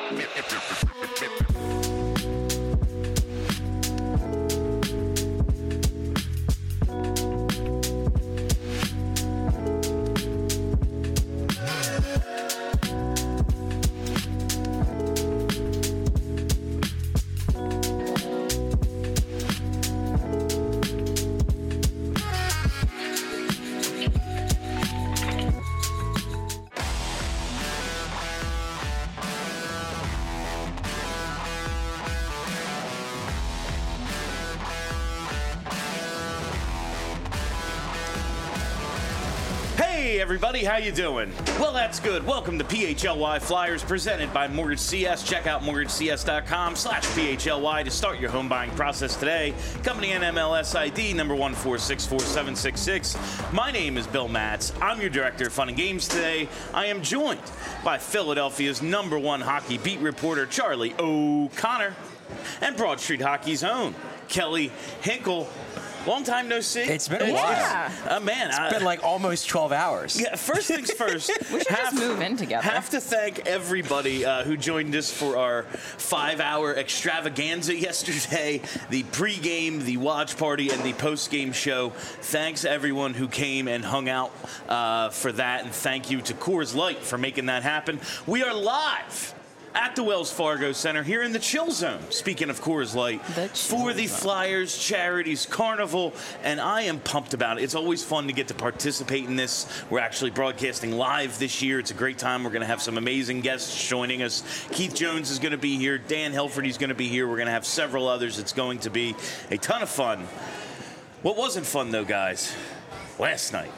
Hey everybody, how you doing? Well, that's good. Welcome to PHLY Flyers presented by Mortgage CS. Check out mortgagecs.com/PHLY to start your home buying process today. Company NMLS ID number 1464766. My name is Bill Matz. I'm your director of fun and games today. I am joined by Philadelphia's #1 hockey beat reporter, Charlie O'Connor, and Broad Street Hockey's own Kelly Hinkle. Long time no see. It's been a while. It's been like almost 12 hours. Yeah, first things first. We should just move in together. Have to thank everybody who joined us for our 5-hour extravaganza yesterday, the pregame, the watch party, and the postgame show. Thanks everyone who came and hung out for that, and thank you to Coors Light for making that happen. We are live at the Wells Fargo Center here in the Chill Zone, speaking of Coors Light, for the Flyers Charities Carnival, and I am pumped about it. It's always fun to get to participate in this. We're actually broadcasting live this year. It's a great time. We're going to have some amazing guests joining us. Keith Jones is going to be here. Dan Helferty's going to be here. We're going to have several others. It's going to be a ton of fun. What wasn't fun, though, guys? Last night.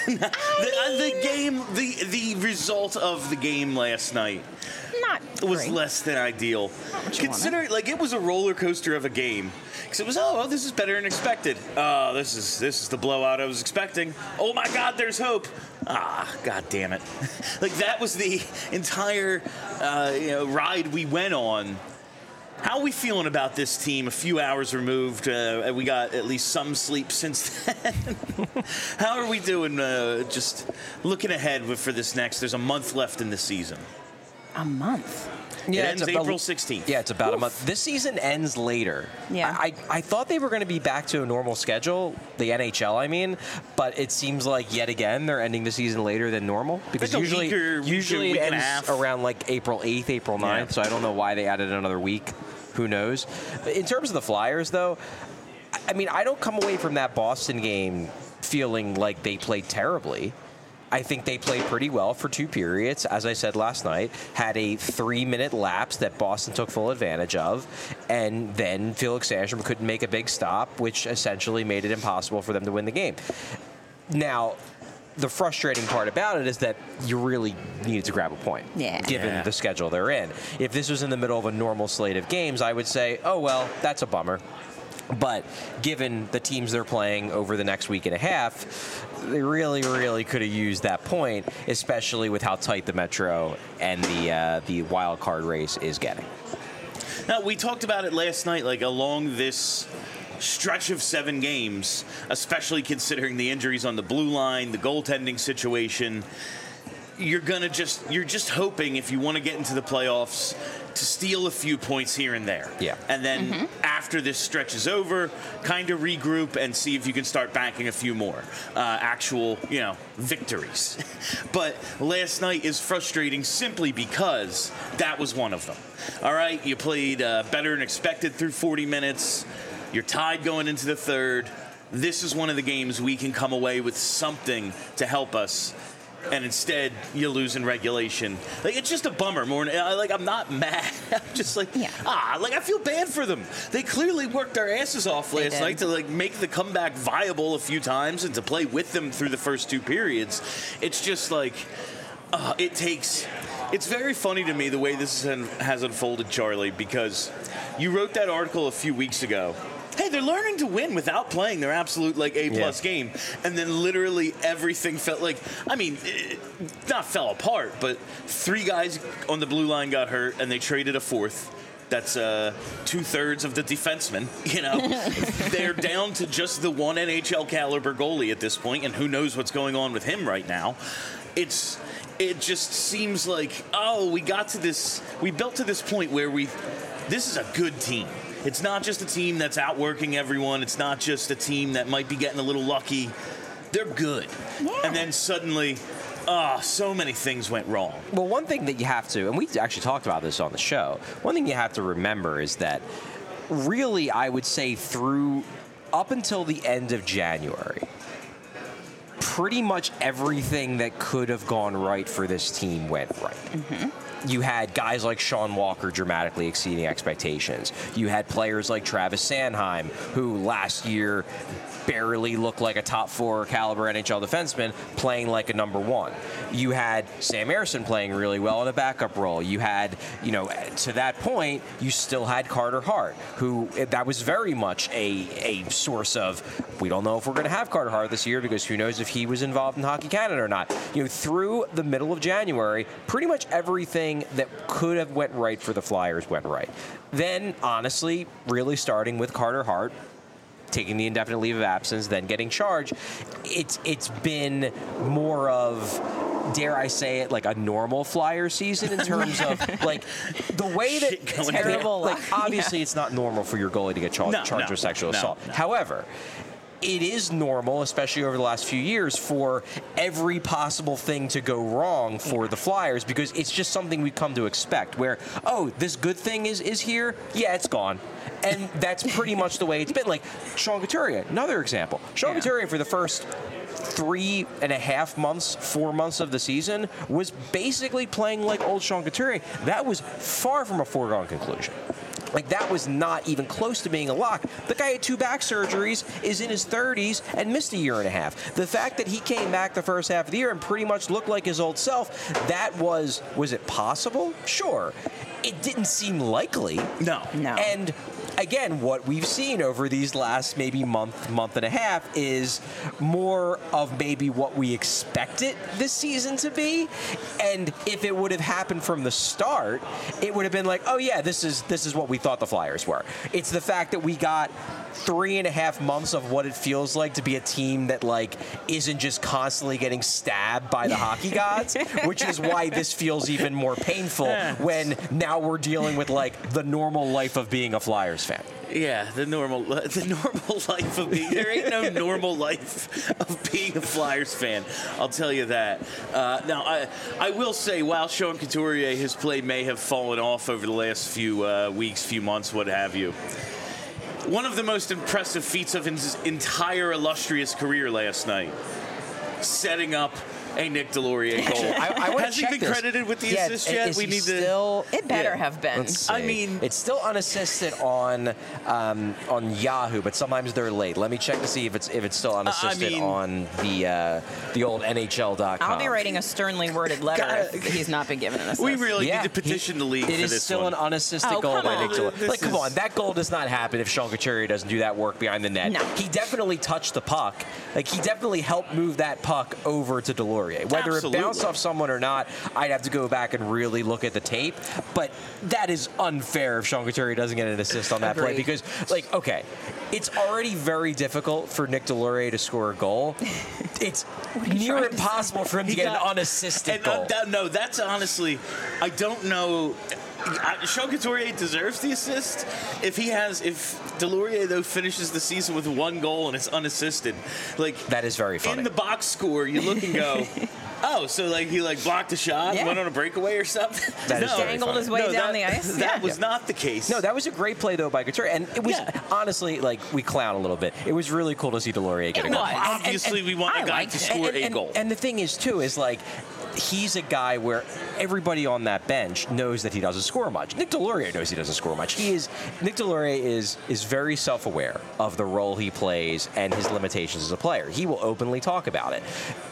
the result of the game last night was less than ideal. Considering, it was a roller coaster of a game. Because it was, this is better than expected. This is the blowout I was expecting. Oh my God, there's hope. God damn it. That was the entire ride we went on. How are we feeling about this team a few hours removed? We got at least some sleep since then. How are we doing just looking ahead for this next? There's a month left in the season. A month? Yeah, it ends April 16th. Yeah, it's about a month. This season ends later. Yeah. I thought they were going to be back to a normal schedule, the NHL, I mean, but it seems like yet again they're ending the season later than normal. Because usually it ends around April 8th, April 9th, yeah. So I don't know why they added another week. Who knows? In terms of the Flyers, though, I mean, I don't come away from that Boston game feeling like they played terribly. I think they played pretty well for 2 periods, as I said last night, had a 3-minute lapse that Boston took full advantage of, and then Felix Sandstrom couldn't make a big stop, which essentially made it impossible for them to win the game. Now, the frustrating part about it is that you really needed to grab a point, given the schedule they're in. If this was in the middle of a normal slate of games, I would say, oh, well, that's a bummer. But given the teams they're playing over the next week and a half, they really, really could have used that point, especially with how tight the Metro and the wild card race is getting. Now, we talked about it last night, along this stretch of 7 games, especially considering the injuries on the blue line, the goaltending situation. You're just hoping, if you want to get into the playoffs, to steal a few points here and there. Yeah. And then after this stretch is over, kind of regroup and see if you can start banking a few more actual, victories. But last night is frustrating simply because that was one of them. All right, you played better than expected through 40 minutes. You're tied going into the third. This is one of the games we can come away with something to help us. And instead, you lose in regulation. It's just a bummer. I'm not mad. I'm just I feel bad for them. They clearly worked their asses off last night to make the comeback viable a few times and to play with them through the first 2 periods. It's just it's very funny to me the way this has unfolded, Charlie, because you wrote that article a few weeks ago. Hey, they're learning to win without playing their absolute A-plus game. And then literally everything not fell apart, but 3 guys on the blue line got hurt and they traded a 4th. That's 2/3 of the defensemen. They're down to just the one NHL caliber goalie at this point, and who knows what's going on with him right now. It's it just seems like, we built to this point where this is a good team. It's not just a team that's outworking everyone. It's not just a team that might be getting a little lucky. They're good. Yeah. And then suddenly, so many things went wrong. Well, one thing that you have to, and we actually talked about this on the show, one thing you have to remember is that really, I would say up until the end of January, pretty much everything that could have gone right for this team went right. Mm-hmm. You had guys like Sean Walker dramatically exceeding expectations. You had players like Travis Sanheim, who last year barely looked like a top 4 caliber NHL defenseman, playing like a number 1. You had Sam Ersson playing really well in a backup role. You had, to that point, you still had Carter Hart, who that was very much a source of, we don't know if we're going to have Carter Hart this year because who knows if he was involved in Hockey Canada or not. Through the middle of January, pretty much everything that could have went right for the Flyers went right. Then, honestly, really starting with Carter Hart, taking the indefinite leave of absence, then getting charged, it's been more of, dare I say it, like a normal Flyer season in terms of like the way that terrible. Like obviously, it's not normal for your goalie to get charged with sexual assault. No. However, it is normal, especially over the last few years, for every possible thing to go wrong for the Flyers because it's just something we've come to expect where, this good thing is here, it's gone. And that's pretty much the way it's been. Like Sean Couturier, another example. Sean Couturier for the first 3.5 months, 4 months of the season was basically playing like old Sean Couturier. That was far from a foregone conclusion. Like, that was not even close to being a lock. The guy had 2 back surgeries, is in his 30s, and missed a year and a half. The fact that he came back the first half of the year and pretty much looked like his old self, that was it possible? Sure. It didn't seem likely. No. And again, what we've seen over these last maybe month and a half is more of maybe what we expected this season to be. And if it would have happened from the start, it would have been like, this is what we thought the Flyers were. It's the fact that we got 3.5 months of what it feels like to be a team that isn't just constantly getting stabbed by the hockey gods, which is why this feels even more painful when now we're dealing with the normal life of being a Flyers fan. Yeah, the normal life of being. There ain't no normal life of being a Flyers fan. I'll tell you that. Now, I will say, while Sean Couturier, his play may have fallen off over the last few weeks, few months, what have you. One of the most impressive feats of his entire illustrious career last night, setting up a Nick Delorier goal. Has he been credited with the assist yet? We need to. It better have been. I mean, it's still unassisted on Yahoo, but sometimes they're late. Let me check to see if it's still unassisted on the old NHL.com. I'll be writing a sternly worded letter if he's not been given an assist. We really need to petition the league for this one. It is still an unassisted goal by Nick Delorier. Come on, that goal does not happen if Sean Couturier doesn't do that work behind the net. No. He definitely touched the puck. He definitely helped move that puck over to Delorier. Whether it bounced off someone or not, I'd have to go back and really look at the tape. But that is unfair if Sean Couturier doesn't get an assist on that play because, it's already very difficult for Nick Delorier to score a goal. It's near impossible for him to get an unassisted goal. No, that's honestly, I don't know. Sean Couturier deserves the assist. If Delorier though finishes the season with 1 goal and it's unassisted, that is very funny. In the box score, you look and go, so he blocked a shot, went on a breakaway or something. That is dangled his way down the ice. That was not the case. No, that was a great play though by Couturier, and it was honestly we clown a little bit. It was really cool to see Delorier get a goal. Obviously, we want a guy to score a goal. And the thing is too is he's a guy where everybody on that bench knows that he doesn't score much. Nick Delorier knows he doesn't score much. Nick Delorier is very self-aware of the role he plays and his limitations as a player. He will openly talk about it.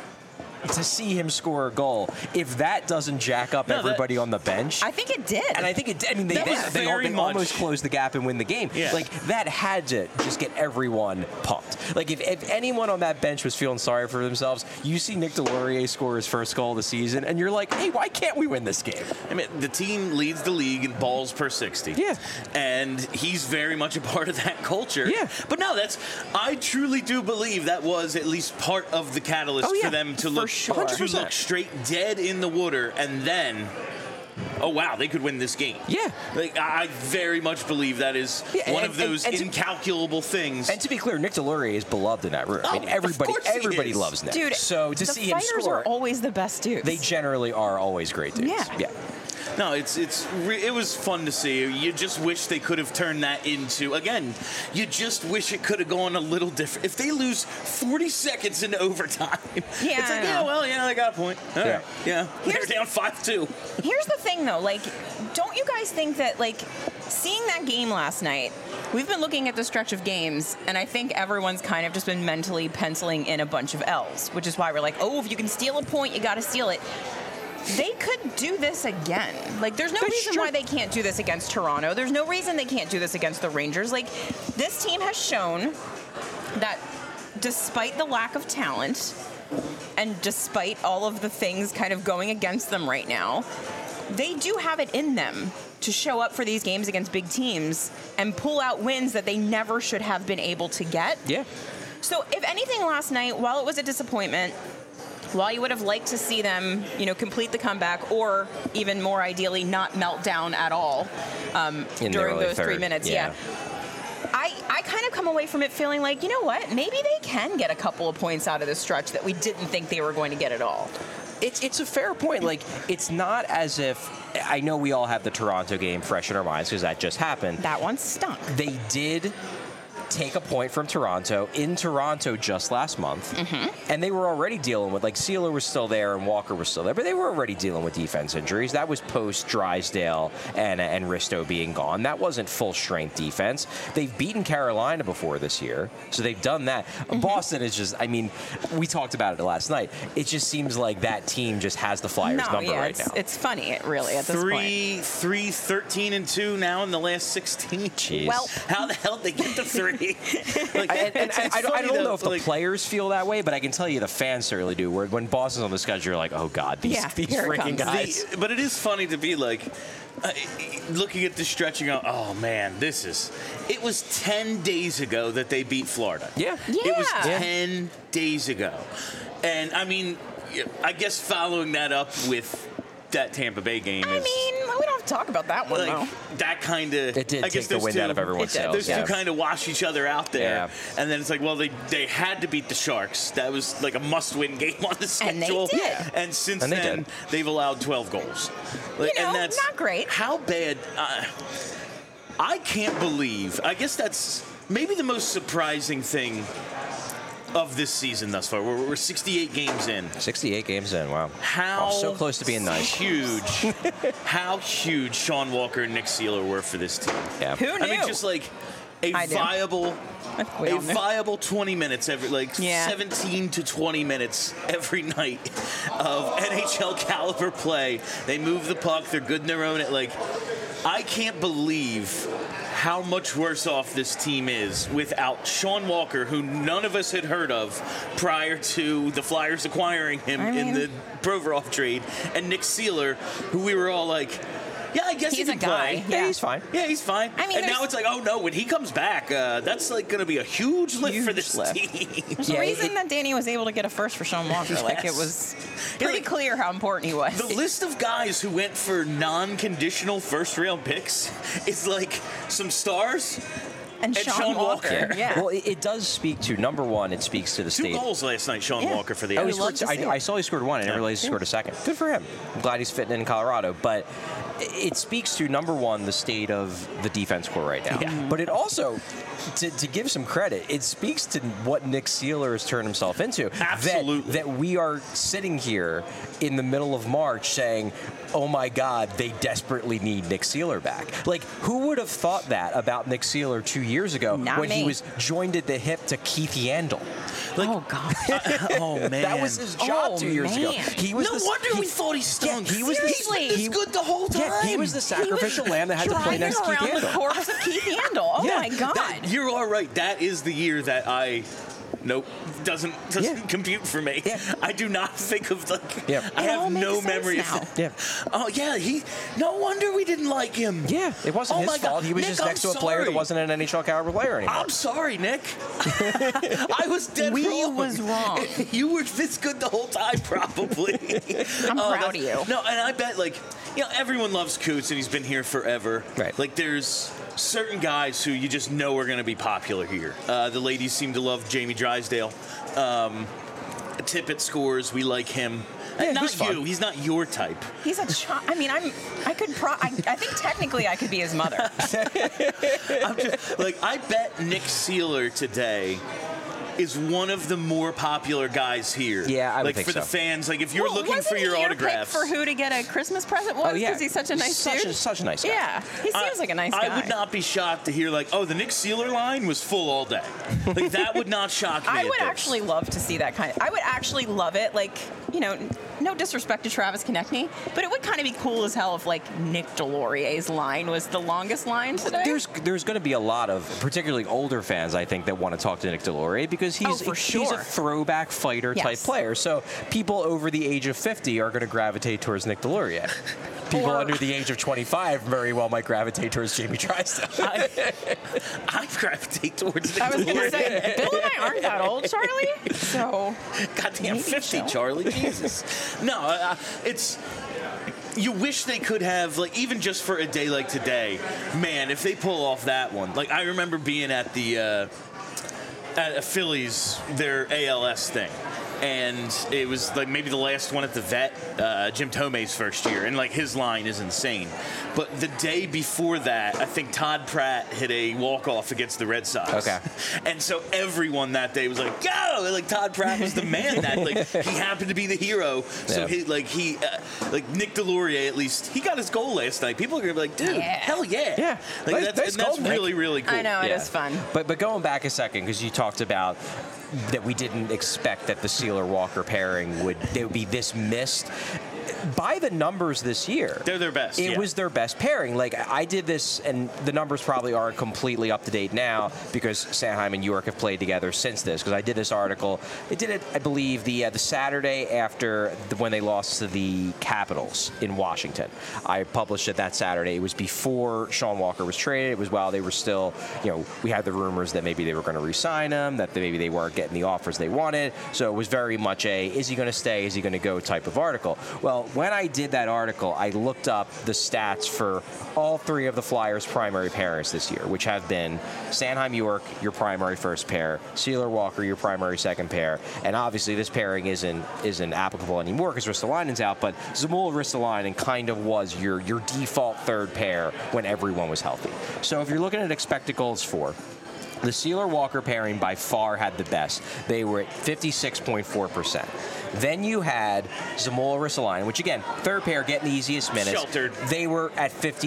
To see him score a goal, if that doesn't jack up everybody on the bench, I think it did. And I think it did. I mean, they almost closed the gap and win the game. Yeah. That had to just get everyone pumped. If anyone on that bench was feeling sorry for themselves, you see Nick Delorier score his first goal of the season, and you're like, hey, why can't we win this game? I mean, the team leads the league in balls per 60. Yeah. And he's very much a part of that culture. Yeah. But no, I truly do believe that was at least part of the catalyst for them to look sure. 100%. to look straight dead in the water and then, oh wow, they could win this game. Yeah. Like, I very much believe that is one of those incalculable things. And to be clear, Nick Deslauriers is beloved in that room. I mean, everybody loves Nick. Dude, so to see him score, fighters are always the best dudes. They generally are always great dudes. Yeah. No, it was fun to see. You just wish they could have turned that into, again, you just wish it could have gone a little different. If they lose 40 seconds into overtime, it's like, they got a point. All right. Yeah. They're down 5-2. Here's the thing, though. Like, don't you guys think that, like, seeing that game last night, we've been looking at the stretch of games, and I think everyone's kind of just been mentally penciling in a bunch of L's, which is why we're like, oh, if you can steal a point, you got to steal it. They could do this again. Like, there's no reason why they can't do this against Toronto. There's no reason they can't do this against the Rangers. Like, this team has shown that despite the lack of talent and despite all of the things kind of going against them right now, they do have it in them to show up for these games against big teams and pull out wins that they never should have been able to get. Yeah. So, if anything, last night, while it was a disappointment, while you would have liked to see them, complete the comeback, or even more ideally, not melt down at all during those 3 minutes, I kind of come away from it feeling like, you know what, maybe they can get a couple of points out of this stretch that we didn't think they were going to get at all. It's a fair point. Like, it's not as if, I know we all have the Toronto game fresh in our minds because that just happened. That one stunk. They did take a point from Toronto in Toronto just last month, and they were already dealing with, like, Sealer was still there and Walker was still there, but they were already dealing with defense injuries. That was post Drysdale and Risto being gone. That wasn't full strength defense. They've beaten Carolina before this year, so they've done that. Boston is just, I mean, we talked about it last night. It just seems like that team just has the Flyers number right now. It's funny, really, at this point. 13-2 now in the last 16. Jeez. Well, how the hell did they get to 3? I don't know if the players feel that way, but I can tell you the fans certainly do. Where when Boston's on the schedule, you're like, oh God, these freaking guys. But it is funny to be like, looking at the stretch and go, oh man, it was 10 days ago that they beat Florida. Yeah. It was 10 days ago. And I mean, I guess following that up with that Tampa Bay game we don't have to talk about that one, though. That kind of... It did take the wind out of everyone's sails. Those two kind of wash each other out there. Yeah. And then it's like, well, they had to beat the Sharks. That was like a must-win game on the schedule. And they did. And since then, they've allowed 12 goals. And that's not great. How bad... I can't believe... I guess that's maybe the most surprising thing of this season thus far. We're 68 games in. 68 games in, wow. So close to being nice. How huge Sean Walker and Nick Sealer were for this team. Yeah. Who knew? I mean, just like a viable 20 minutes 17 to 20 minutes every night of NHL caliber play. They move the puck. They're good in their own. I can't believe how much worse off this team is without Sean Walker, who none of us had heard of prior to the Flyers acquiring him in the Provorov trade, and Nick Sealer, who we were all like, yeah, I guess he's he can play. Yeah, he's fine. Yeah, he's fine. I mean, and now it's like, oh no, when he comes back, that's like going to be a huge lift for this team. There's a reason that Danny was able to get a first for Sean Walker. Yes. Like, it was pretty clear how important he was. The list of guys who went for non-conditional first-round picks is like some stars. And Sean Walker. Yeah. Well, it does speak to, number one, it speaks to the state. 2 goals last night, Sean Walker, for the Islanders. I saw he scored one. I didn't realize he scored a second. Good for him. I'm glad he's fitting in Colorado. But it speaks to, number one, the state of the defense core right now. Yeah. But it also, to give some credit, it speaks to what Nick Sealer has turned himself into. Absolutely. That we are sitting here in the middle of March saying, oh my God, they desperately need Nick Sealer back. Like, who would have thought that about Nick Sealer 2 years ago he was joined at the hip to Keith Yandel? Like, oh God! Oh man, that was his job 2 years ago. He was we thought he stunk. Yeah, he was good the whole time. Yeah, he was the sacrificial lamb that had to play next to Keith Yandel. The corpse of Keith Yandel. Oh my God! You're all right. That is the year that I Nope, doesn't compute for me. Yeah. I do not think of I It all have makes no sense memory now. of that. Oh yeah, no wonder we didn't like him. Yeah, it wasn't his fault. God. He was Nick, just next to a player that wasn't an NHL caliber player anymore. I'm sorry, Nick. I was dead wrong. We was wrong. You were this good the whole time, probably. I'm proud of you. No, and I bet everyone loves Coots, and he's been here forever. Right. Like there's certain guys who you just know are going to be popular here. The ladies seem to love Jamie Drysdale. Tippett scores. We like him. Yeah, and not he's fun. you. He's not your type. He's a child. I mean, I think technically I could be his mother. I'm just I bet Nick Seeler today is one of the more popular guys here. Yeah, I would think for so. the fans, if you're looking for your autographs. Pick for who to get a Christmas present was? Because he's such a nice dude. Such a nice guy. Yeah, he seems like a nice guy. I would not be shocked to hear the Nick Seeler line was full all day. That would not shock me. I would actually love to see that I would actually love it. No disrespect to Travis Konechny, but it would kind of be cool as hell if Nick Delorier's line was the longest line today. There's going to be a lot of particularly older fans, I think, that want to talk to Nick Delorier because he's a throwback fighter type player. So people over the age of 50 are going to gravitate towards Nick Delorier. People under the age of 25 very well might gravitate towards Jamie Drysdale. I gravitate towards Nick I was going to Delorier. say, Bill and I aren't that old, Charlie. So, goddamn 50, so. Charlie. Jesus. No, it's. You wish they could have, even just for a day like today, man, if they pull off that one. I remember being at the Phillies, their ALS thing. And it was maybe the last one at the Vet, Jim Tomei's first year, and his line is insane. But the day before that, I think Todd Pratt hit a walk-off against the Red Sox. Okay. And so everyone that day was like, "Go!" Todd Pratt was the man that he happened to be the hero. So he Nick Delorier, at least he got his goal last night. People are gonna be like, "Dude, hell yeah!" Yeah, that's really really cool. I know it is fun. But going back a second, because you talked about that we didn't expect that the Seeler-Walker pairing would be this missed. By the numbers this year, they're their best. It was their best pairing. I did this, and the numbers probably aren't completely up to date now because Sanheim and York have played together since this. Because I did this article, I did it, I believe, the Saturday after when they lost to the Capitals in Washington. I published it that Saturday. It was before Sean Walker was traded. It was while they were still, we had the rumors that maybe they were going to re-sign him, that maybe they weren't getting the offers they wanted. So it was very much is he going to stay, is he going to go type of article. Well, when I did that article, I looked up the stats for all three of the Flyers' primary pairings this year, which have been Sanheim York, your primary first pair, Seeler Walker, your primary second pair, and obviously this pairing isn't applicable anymore because Ristolainen's out, but Zamula Ristolainen kind of was your default third pair when everyone was healthy. So if you're looking at expected goals for, the Seeler-Walker pairing by far had the best. They were at 56.4%. Then you had Zamula Ristolainen, which again, third pair getting the easiest minutes. Sheltered. They were at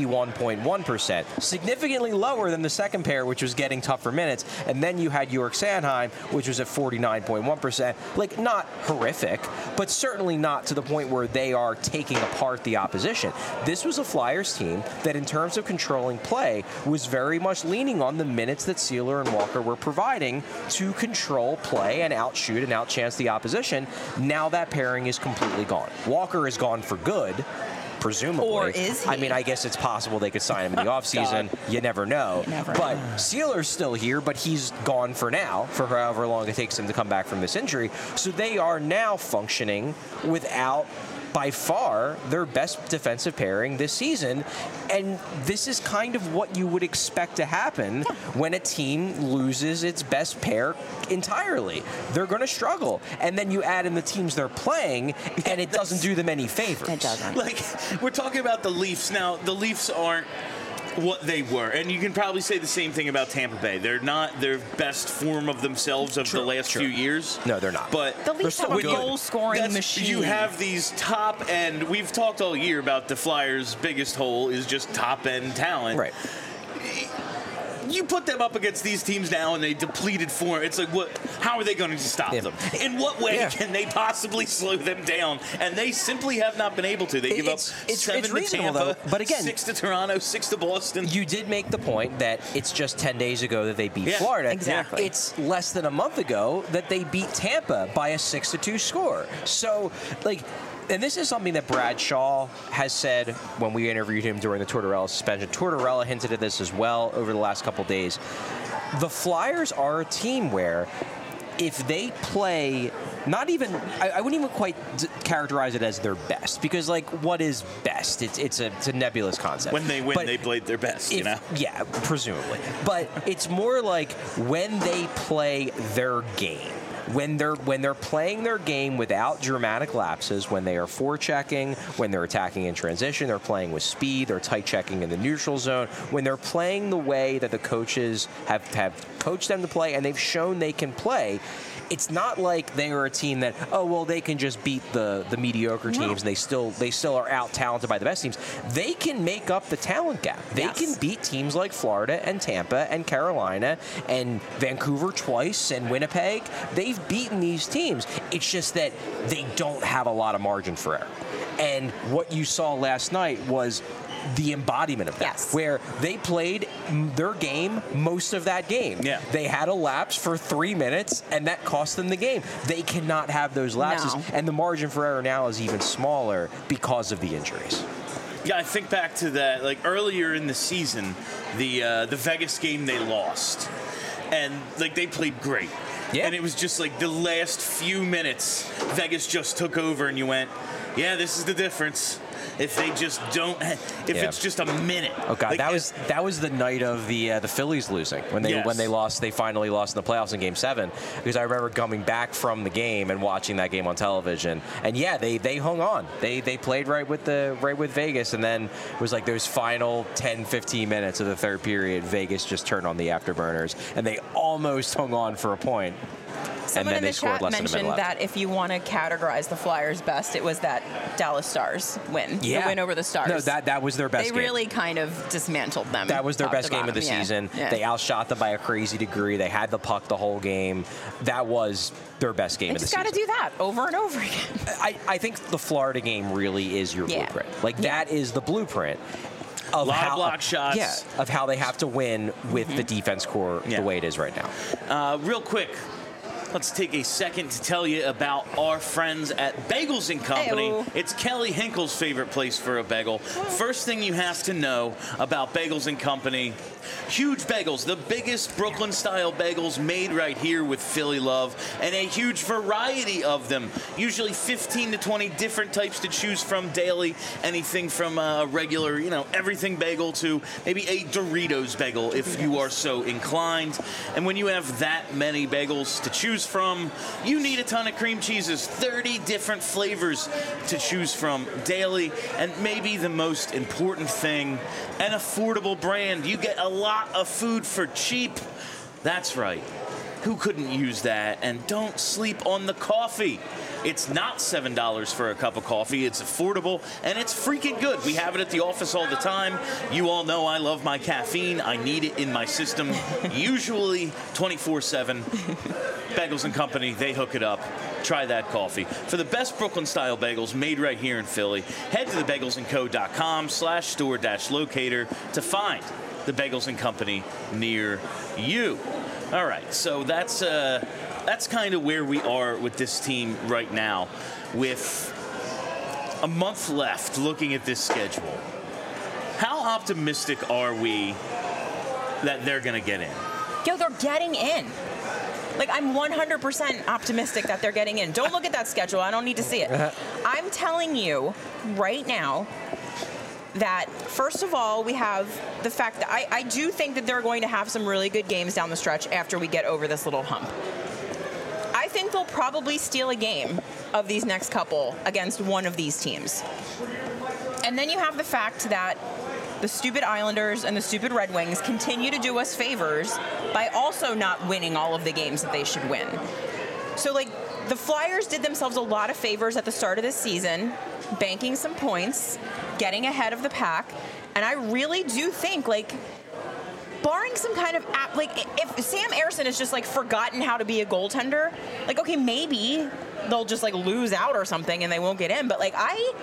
51.1%, significantly lower than the second pair, which was getting tougher minutes. And then you had York Sanheim, which was at 49.1%. Not horrific, but certainly not to the point where they are taking apart the opposition. This was a Flyers team that, in terms of controlling play, was very much leaning on the minutes that Seeler and Walker were providing to control play and outshoot and outchance the opposition. Now that pairing is completely gone. Walker is gone for good, presumably. Or is he? I mean, I guess it's possible they could sign him in the offseason. You never know. But Sealer's still here, but he's gone for now, for however long it takes him to come back from this injury. So they are now functioning without, by far, their best defensive pairing this season. And this is kind of what you would expect to happen when a team loses its best pair entirely. They're going to struggle. And then you add in the teams they're playing, and it doesn't do them any favors. It doesn't. We're talking about the Leafs. Now, the Leafs aren't what they were. And you can probably say the same thing about Tampa Bay. They're not their best form of themselves of the last few years. No, they're not. But the Leafs have a goal-scoring machine. You have these top-end... We've talked all year about the Flyers' biggest hole is just top-end talent. Right. you put them up against these teams now and they depleted form. It's like, what? How are they going to stop them? In what way can they possibly slow them down? And they simply have not been able to. They give up 7 to Tampa, though, but again, 6 to Toronto, 6 to Boston. You did make the point that it's just 10 days ago that they beat Florida. Exactly. It's less than a month ago that they beat Tampa by a 6-2 score. So, like, and this is something that Bradshaw has said when we interviewed him during the Tortorella suspension. Tortorella hinted at this as well over the last couple days. The Flyers are a team where if they play, not even, I wouldn't even quite characterize it as their best, because, like, what is best? It's a nebulous concept. When they win, but they played their best, you know? Yeah, presumably. But it's more like when they play their game. When they're playing their game without dramatic lapses, when they are forechecking, when they're attacking in transition, they're playing with speed, they're tight checking in the neutral zone, when they're playing the way that the coaches have coached them to play and they've shown they can play, it's not like they are a team that, they can just beat the mediocre teams and they still are out talented by the best teams. They can make up the talent gap. They can beat teams like Florida and Tampa and Carolina and Vancouver twice and Winnipeg. They've beaten these teams. It's just that they don't have a lot of margin for error. And what you saw last night was the embodiment of that, where they played their game most of that game. Yeah. They had a lapse for 3 minutes, and that cost them the game. They cannot have those lapses, and the margin for error now is even smaller because of the injuries. Yeah, I think back to that, like earlier in the season, the Vegas game they lost, and like they played great. Yeah. And it was just like the last few minutes, Vegas just took over, and you went, yeah, this is the difference. If they just don't, it's just a minute. Oh God, like, that was the night of the Phillies losing when they lost. They finally lost in the playoffs in Game 7. Because I remember coming back from the game and watching that game on television. And they hung on. They played right with Vegas, and then it was like those final 10-15 minutes of the third period. Vegas just turned on the afterburners, and they almost hung on for a point. Someone and then in the chat mentioned that if you want to categorize the Flyers' best, it was that Dallas Stars win. Yeah. The win over the Stars. No, that was their best game. They really kind of dismantled them. That was their best game of the season. Yeah. They outshot them by a crazy degree. They had the puck the whole game. That was their best game of the season. You just got to do that over and over again. I think the Florida game really is your blueprint. Like, that is the blueprint. Of of block shots. Yeah, of how they have to win with the defense core the way it is right now. Real quick, let's take a second to tell you about our friends at Bagels & Company. Hey-o. It's Kelly Hinkle's favorite place for a bagel. First thing you have to know about Bagels & Company, huge bagels, the biggest Brooklyn-style bagels made right here with Philly love, and a huge variety of them, usually 15 to 20 different types to choose from daily, anything from a regular, everything bagel to maybe a Doritos bagel if you are so inclined. And when you have that many bagels to choose from, you need a ton of cream cheeses, 30 different flavors to choose from daily, and maybe the most important thing, an affordable brand. You get a lot of food for cheap. That's right. Who couldn't use that? And don't sleep on the coffee. It's not $7 for a cup of coffee. It's affordable, and it's freaking good. We have it at the office all the time. You all know I love my caffeine. I need it in my system, usually 24/7. Bagels & Company, they hook it up. Try that coffee. For the best Brooklyn-style bagels made right here in Philly, head to thebagelsandco.com/store-locator to find the Bagels & Company near you. All right, so that's kind of where we are with this team right now. With a month left looking at this schedule, how optimistic are we that they're going to get in? Yo, they're getting in. Like, I'm 100% optimistic that they're getting in. Don't look at that schedule. I don't need to see it. I'm telling you right now that, first of all, we have the fact that I do think that they're going to have some really good games down the stretch after we get over this little hump. I think they'll probably steal a game of these next couple against one of these teams. And then you have the fact that the stupid Islanders and the stupid Red Wings continue to do us favors by also not winning all of the games that they should win. So, like, the Flyers did themselves a lot of favors at the start of this season, banking some points, getting ahead of the pack, and I really do think, like, barring some kind of if Sam Ersson has just like forgotten how to be a goaltender, like okay, maybe they'll just like lose out or something and they won't get in. But like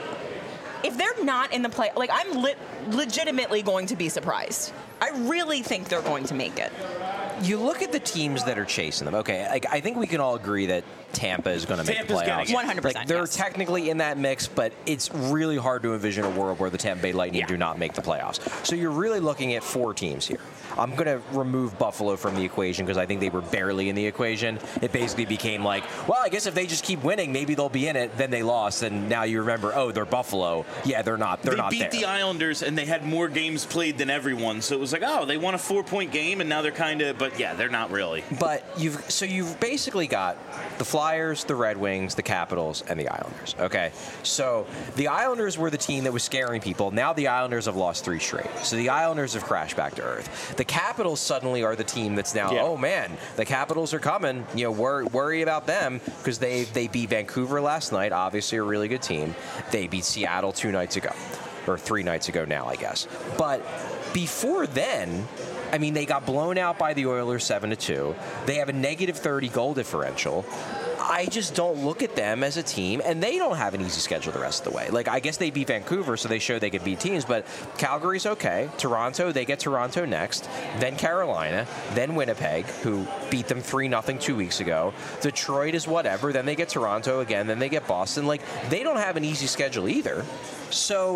if they're not in the play, like I'm legitimately going to be surprised. I really think they're going to make it. You look at the teams that are chasing them. Okay, like I think we can all agree that Tampa is going to make the playoffs. 100%. Like they're technically in that mix, but it's really hard to envision a world where the Tampa Bay Lightning do not make the playoffs. So you're really looking at 4 teams here. I'm going to remove Buffalo from the equation because I think they were barely in the equation. It basically became like, well, I guess if they just keep winning, maybe they'll be in it. Then they lost, and now you remember, oh, they're Buffalo. Yeah, they're not. They're not there. They beat the Islanders, and they had more games played than everyone. So it was like, oh, they won a 4-point game, and now they're kind of, but yeah, they're not really. But you've basically got the Flyers, the Red Wings, the Capitals, and the Islanders. Okay, so the Islanders were the team that was scaring people. Now the Islanders have lost 3 straight. So the Islanders have crashed back to earth. The Capitals suddenly are the team that's now, oh man, the Capitals are coming. You know, worry about them because they beat Vancouver last night, obviously a really good team. They beat Seattle 2 nights ago, or 3 nights ago now, I guess. But before then, I mean, they got blown out by the Oilers 7-2. They have a negative 30 goal differential. I just don't look at them as a team, and they don't have an easy schedule the rest of the way. Like, I guess they beat Vancouver, so they showed they could beat teams, but Calgary's okay. Toronto, they get Toronto next, then Carolina, then Winnipeg, who beat them 3-0 2 weeks ago. Detroit is whatever, then they get Toronto again, then they get Boston. Like, they don't have an easy schedule either. So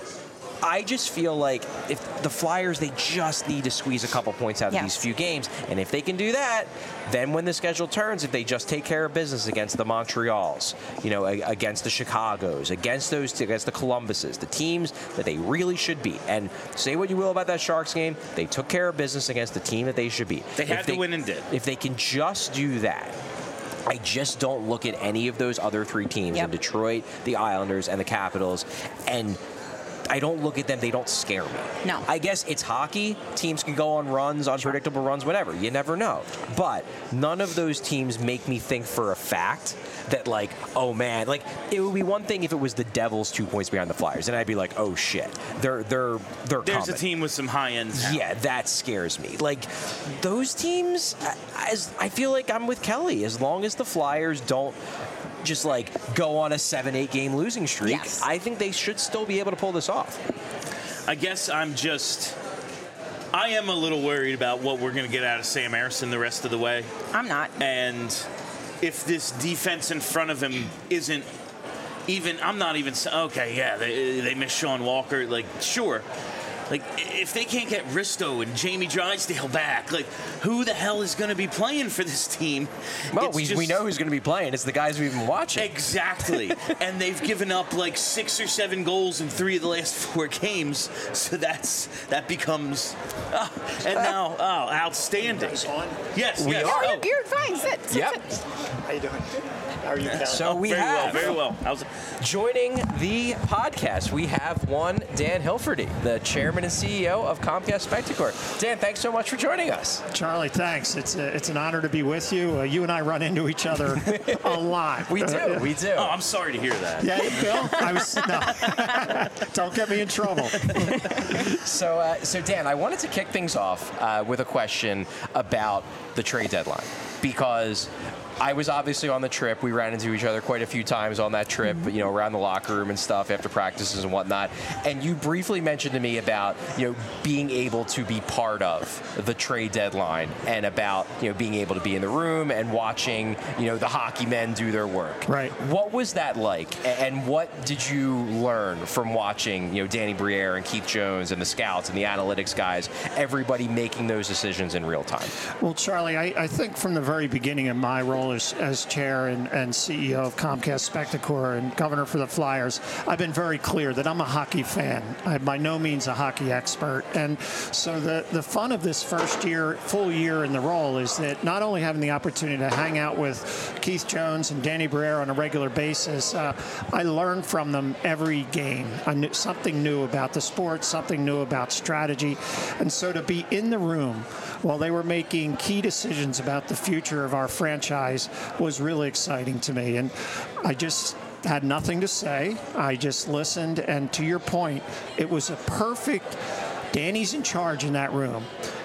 I just feel like if the Flyers, they just need to squeeze a couple points out of these few games. And if they can do that, then when the schedule turns, if they just take care of business against the Montreals, you know, against the Chicagos, against the Columbuses, the teams that they really should beat. And say what you will about that Sharks game, they took care of business against the team that they should beat. They had to win and did. If they can just do that, I just don't look at any of those other 3 teams in Detroit, the Islanders, and the Capitals, and I don't look at them. They don't scare me. No. I guess it's hockey. Teams can go on runs, unpredictable runs, whatever. You never know. But none of those teams make me think for a fact that, like, oh, man. Like, it would be one thing if it was the Devils 2 points behind the Flyers, and I'd be like, oh, shit. They're There's coming. A team with some high-end talent. Yeah, that scares me. Like, those teams, I feel like I'm with Kelly. As long as the Flyers don't just like go on a 7-8 game losing streak, I think they should still be able to pull this off. I guess I am a little worried about what we're going to get out of Sam Ersson the rest of the way. I'm not. And if this defense in front of him isn't even, I'm not even, okay, yeah, they miss Sean Walker, like, sure. Like, if they can't get Risto and Jamie Drysdale back, like, who the hell is going to be playing for this team? Well, we know who's going to be playing. It's the guys we've been watching. Exactly. And they've given up, like, 6 or 7 goals in 3 of the last 4 games. So that becomes, outstanding. Yes, we are. Oh, you're fine. Sit. How you doing? How are you, Cal? So we very well. Joining the podcast, we have one Dan Hilferty, the chairman and CEO of Comcast Spectacor. Dan, thanks so much for joining us. Charlie, thanks. It's an honor to be with you. You and I run into each other a lot. We do. Oh, I'm sorry to hear that. Yeah, Bill. Don't get me in trouble. So Dan, I wanted to kick things off with a question about the trade deadline, because I was obviously on the trip. We ran into each other quite a few times on that trip, you know, around the locker room and stuff after practices and whatnot. And you briefly mentioned to me about, you know, being able to be part of the trade deadline and about, you know, being able to be in the room and watching, you know, the hockey men do their work. Right. What was that like? And what did you learn from watching, you know, Danny Briere and Keith Jones and the scouts and the analytics guys, everybody making those decisions in real time? Well, Charlie, I think from the very beginning of my role as chair and CEO of Comcast Spectacor and governor for the Flyers, I've been very clear that I'm a hockey fan. I'm by no means a hockey expert. And so the fun of this first year, full year in the role, is that not only having the opportunity to hang out with Keith Jones and Danny Briere on a regular basis, I learn from them every game. I knew something new about the sport, something new about strategy. And so to be in the room while they were making key decisions about the future of our franchise was really exciting to me. And I just had nothing to say. I just listened. And to your point, it was a perfect, Danny's in charge in that room.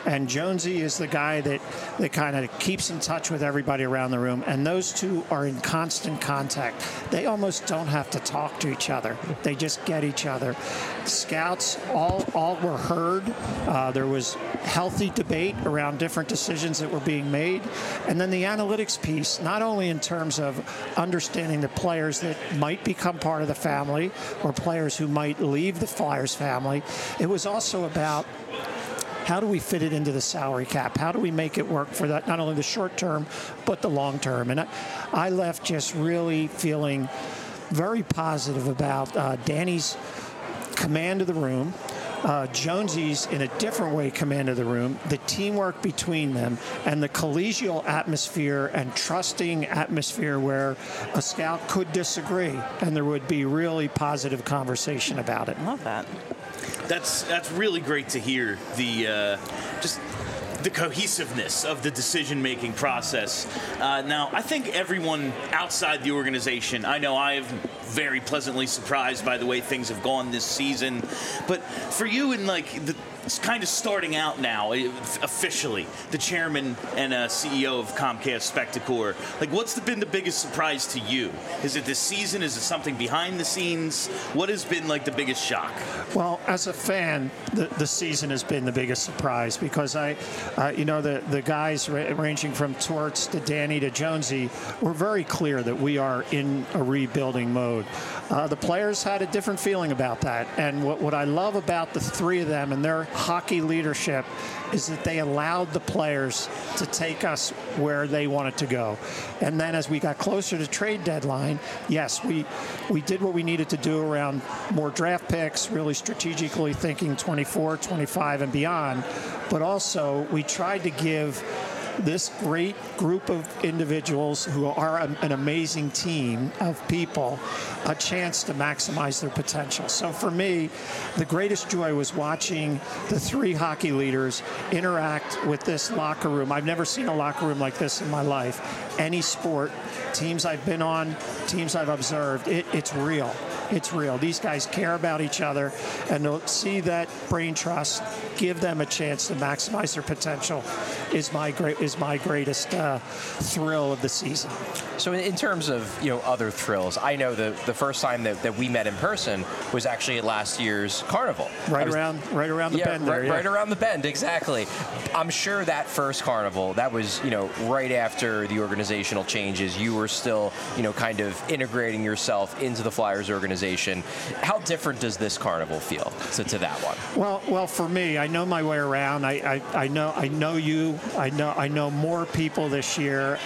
And Jonesy is the guy that kind of keeps in touch with everybody around the room. And those two are in constant contact. They almost don't have to talk to each other. They just get each other. Scouts all were heard. There was healthy debate around different decisions that were being made. And then the analytics piece, not only in terms of understanding the players that might become part of the family or players who might leave the Flyers family, it was also about how do we fit it into the salary cap? How do we make it work for that, not only the short term, but the long term? And I left just really feeling very positive about Danny's command of the room, Jonesy's, in a different way, command of the room, the teamwork between them, and the collegial atmosphere and trusting atmosphere where a scout could disagree, and there would be really positive conversation about it. Love that. That's really great to hear. Just the cohesiveness of the decision-making process. Now, I think everyone outside the organization, I know I have very pleasantly surprised by the way things have gone this season, but for you in it's kind of starting out now, officially, the chairman and CEO of Comcast Spectacor. What's been the biggest surprise to you? Is it this season? Is it something behind the scenes? What has been the biggest shock? Well, as a fan, the season has been the biggest surprise because the guys ranging from Torts to Danny to Jonesy were very clear that we are in a rebuilding mode. The players had a different feeling about that, and what I love about the three of them and their hockey leadership is that they allowed the players to take us where they wanted to go. And then as we got closer to trade deadline, yes, we did what we needed to do around more draft picks, really strategically thinking 24, 25, and beyond. But also we tried to give this great group of individuals who are an amazing team of people a chance to maximize their potential. So for me, the greatest joy was watching the three hockey leaders interact with this locker room. I've never seen a locker room like this in my life. Any sport, teams I've been on, teams I've observed, it's real. It's real. These guys care about each other, and to see that brain trust give them a chance to maximize their potential is my greatest thrill of the season. So in terms of other thrills, I know the first time that we met in person was actually at last year's Carnival. Right around the bend there. Right around the bend, exactly. I'm sure that first Carnival, that was right after the organizational changes. You were still kind of integrating yourself into the Flyers organization. How different does this Carnival feel to that one? Well, for me, I know my way around. I know you. I know more people this year.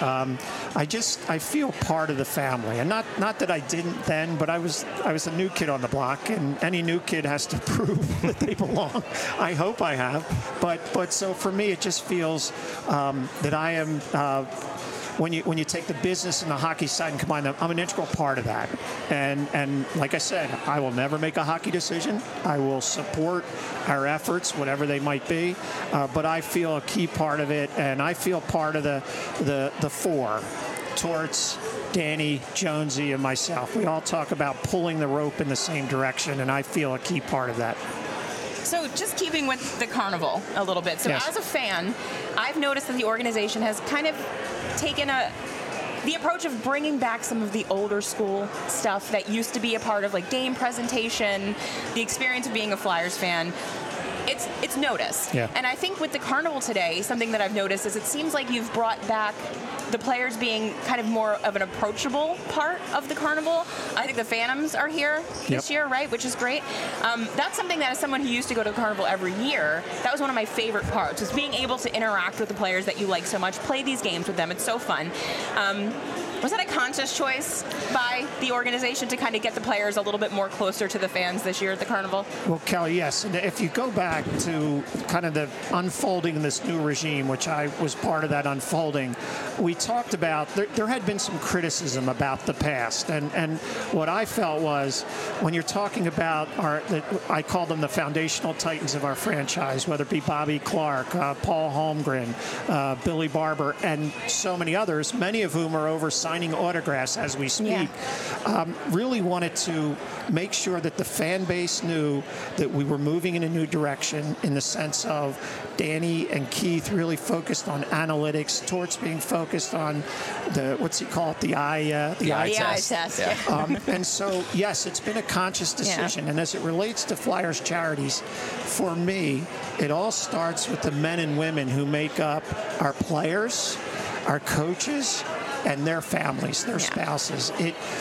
I feel part of the family, and not that I didn't then, but I was a new kid on the block, and any new kid has to prove that they belong. I hope I have, but so for me, it just feels that I am. When you take the business and the hockey side and combine them, I'm an integral part of that. And like I said, I will never make a hockey decision. I will support our efforts, whatever they might be. But I feel a key part of it, and I feel part of the four. Torts, Danny, Jonesy, and myself. We all talk about pulling the rope in the same direction, and I feel a key part of that. So just keeping with the Carnival a little bit. So As a fan, I've noticed that the organization has kind of taken the approach of bringing back some of the older school stuff that used to be a part of game presentation, the experience of being a Flyers fan. It's noticed. Yeah. And I think with the Carnival today, something that I've noticed is it seems like you've brought back the players being kind of more of an approachable part of the Carnival. I think the Phantoms are here this year, right? Which is great. That's something that as someone who used to go to the Carnival every year, that was one of my favorite parts, was being able to interact with the players that you like so much, play these games with them. It's so fun. Was that a conscious choice by the organization to kind of get the players a little bit more closer to the fans this year at the Carnival? Well, Kelly, yes. And if you go back to kind of the unfolding of this new regime, which I was part of that unfolding, we talked about there had been some criticism about the past. And what I felt was when you're talking about I call them the foundational titans of our franchise, whether it be Bobby Clarke, Paul Holmgren, Billy Barber, and so many others, many of whom are over signing autographs as we speak. Really wanted to make sure that the fan base knew that we were moving in a new direction in the sense of Danny and Keith really focused on analytics, Torts being focused on the, what's he call it, the eye test. And so, yes, it's been a conscious decision. And as it relates to Flyers charities, for me, it all starts with the men and women who make up our players, our coaches, and their families, their spouses.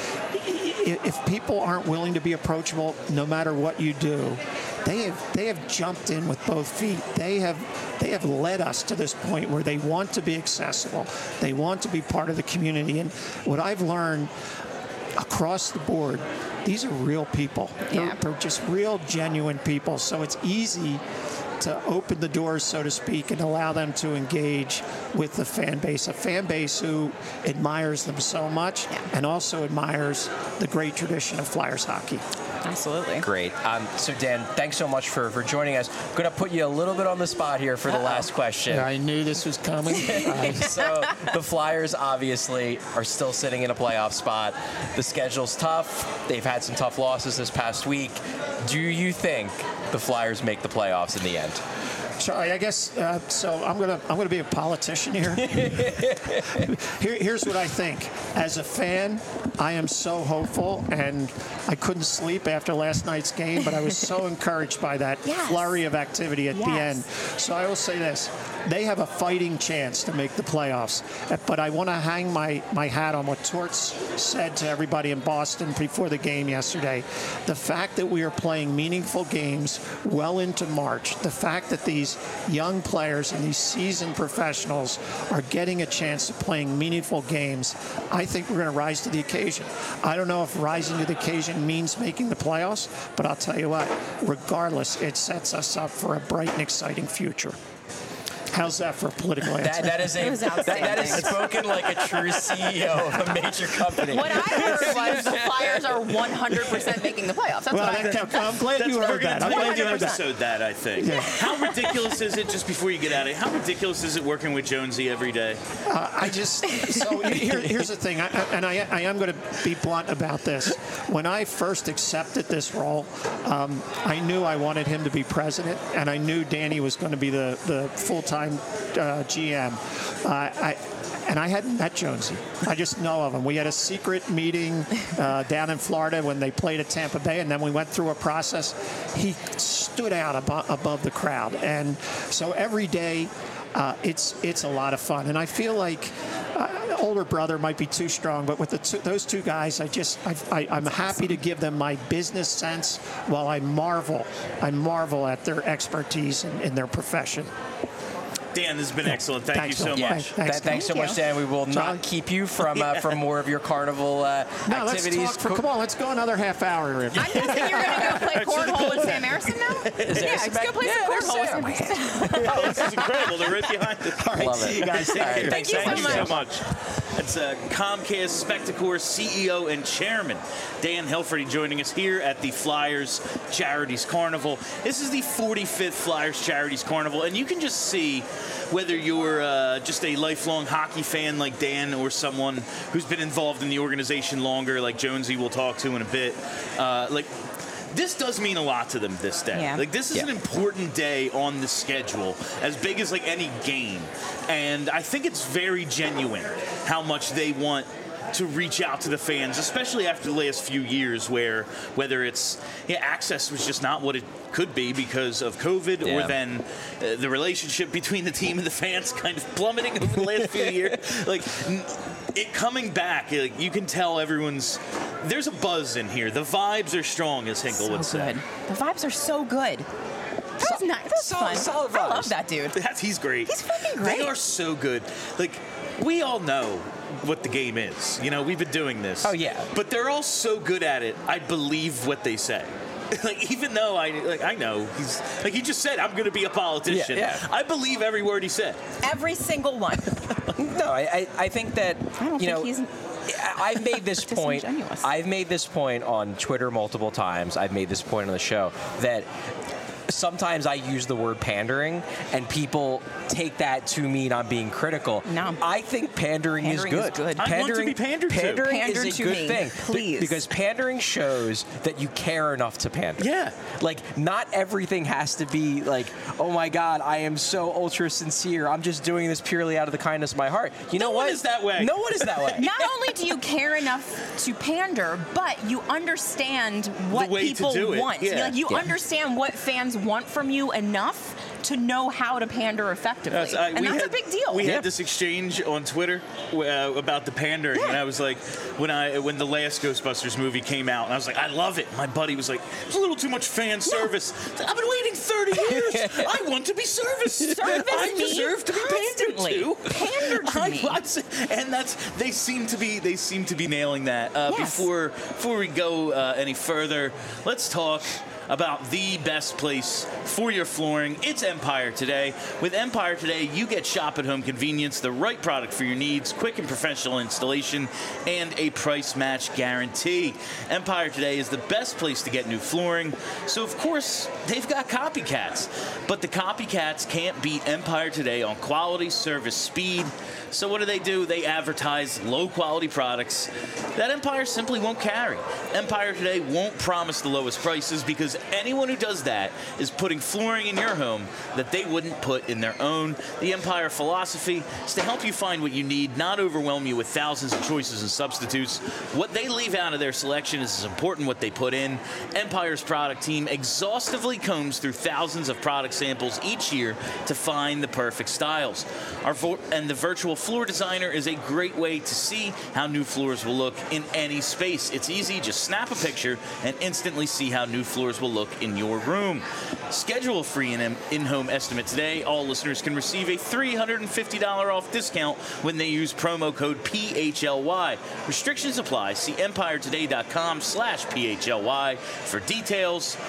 If people aren't willing to be approachable, no matter what you do, they have jumped in with both feet. They have led us to this point where they want to be accessible. They want to be part of the community. And what I've learned across the board, these are real people. They're just real, genuine people. So it's easy to open the doors, so to speak, and allow them to engage with the fan base, a fan base who admires them so much and also admires the great tradition of Flyers hockey. Absolutely. Great. So, Dan, thanks so much for joining us. I'm going to put you a little bit on the spot here for the last question. Yeah, I knew this was coming. So, the Flyers obviously are still sitting in a playoff spot. The schedule's tough. They've had some tough losses this past week. Do you think the Flyers make the playoffs in the end? Charlie, I guess so. I'm gonna be a politician here. Here's what I think. As a fan, I am so hopeful, and I couldn't sleep after last night's game, but I was so encouraged by that flurry of activity at the end. So I will say this: they have a fighting chance to make the playoffs. But I want to hang my hat on what Torts said to everybody in Boston before the game yesterday. The fact that we are playing meaningful games well into March, the fact that these young players and these seasoned professionals are getting a chance of playing meaningful games, I think we're going to rise to the occasion. I don't know if rising to the occasion means making the playoffs, but I'll tell you what, regardless, it sets us up for a bright and exciting future. How's that for a political answer? That is spoken like a true CEO of a major company. What I heard was the Flyers are 100% making the playoffs. That's what I heard. I'm glad you heard that. I'm glad you episode that, I think. Yeah. How ridiculous is it, just before you get out of it, how ridiculous is it working with Jonesy every day? Here's the thing, I am going to be blunt about this. When I first accepted this role, I knew I wanted him to be president, and I knew Danny was going to be the full-time GM. And I hadn't met Jonesy. I just know of him. We had a secret meeting down in Florida when they played at Tampa Bay, and then we went through a process. He stood out above the crowd. And so every day, it's a lot of fun. And I feel like older brother might be too strong, but with those two guys, I'm happy to give them my business sense while I marvel at their expertise in their profession. Dan, this has been excellent. Thank you so much. Thanks so much, Dan. We will not keep you from more of your carnival activities. Come on, let's go another half hour. I'm guessing you're going to go play cornhole with Sam Harrison now? Let's go play some cornhole with Sam Harrison. Oh, this is incredible. They're right behind us. All right, see you guys. Thank you so much. That's Comcast Spectacor CEO and Chairman Dan Hilferty joining us here at the Flyers Charities Carnival. This is the 45th Flyers Charities Carnival, and you can just see whether you're just a lifelong hockey fan like Dan or someone who's been involved in the organization longer, like Jonesy we'll talk to in a bit. This does mean a lot to them this day. Yeah. This is an important day on the schedule, as big as any game. And I think it's very genuine how much they want to reach out to the fans, especially after the last few years where whether it's access was just not what it could be because of COVID, or then the relationship between the team and the fans kind of plummeting over the last few years. It coming back, you can tell there's a buzz in here. The vibes are strong, as Hinkle would say. The vibes are so good. That was nice. That was fun. Solid vibes. I love that dude. He's great. He's fucking great. They are so good. We all know what the game is. We've been doing this. Oh, yeah. But they're all so good at it, I believe what they say. Even though I know he's he just said I'm going to be a politician. Yeah. I believe every word he said. Every single one. No, I think that I don't think he's I've made this point. I've made this point on Twitter multiple times. I've made this point on the show that sometimes I use the word pandering, and people take that to mean I'm being critical. No. I think pandering is good. I want to be pandered to. Pandering Pander is a to good me, thing. please. Because pandering shows that you care enough to pander. Yeah. Like, not everything has to be like, oh my God, I am so ultra sincere. I'm just doing this purely out of the kindness of my heart. You know what? No one is that way. No one is that way. Not only do you care enough to pander, but you understand what way to people do it. want. Yeah. Like, you understand what fans want from you enough to know how to pander effectively. And that's a big deal. We had this exchange on Twitter about the pandering, and I was like, when the last Ghostbusters movie came out, and I was like, I love it. My buddy was like, it's a little too much fan service. I've been waiting 30 years. I want to be serviced. I deserve to be pandered to. Pander to me. And they seem to be nailing that. Yes. Before we go any further, let's talk about the best place for your flooring. It's Empire Today. With Empire Today, you get shop-at-home convenience, the right product for your needs, quick and professional installation, and a price match guarantee. Empire Today is the best place to get new flooring. So, of course, they've got copycats. But the copycats can't beat Empire Today on quality, service, speed. So what do? They advertise low-quality products that Empire simply won't carry. Empire Today won't promise the lowest prices because anyone who does that is putting flooring in your home that they wouldn't put in their own. The Empire philosophy is to help you find what you need, not overwhelm you with thousands of choices and substitutes. What they leave out of their selection is as important what they put in. Empire's product team exhaustively combs through thousands of product samples each year to find the perfect styles. And the virtual floor designer is a great way to see how new floors will look in any space. It's easy, just snap a picture and instantly see how new floors will look in your room. Schedule a free in-home estimate today. All listeners can receive a $350 off discount when they use promo code PHLY. Restrictions apply. See EmpireToday.com/PHLY for details.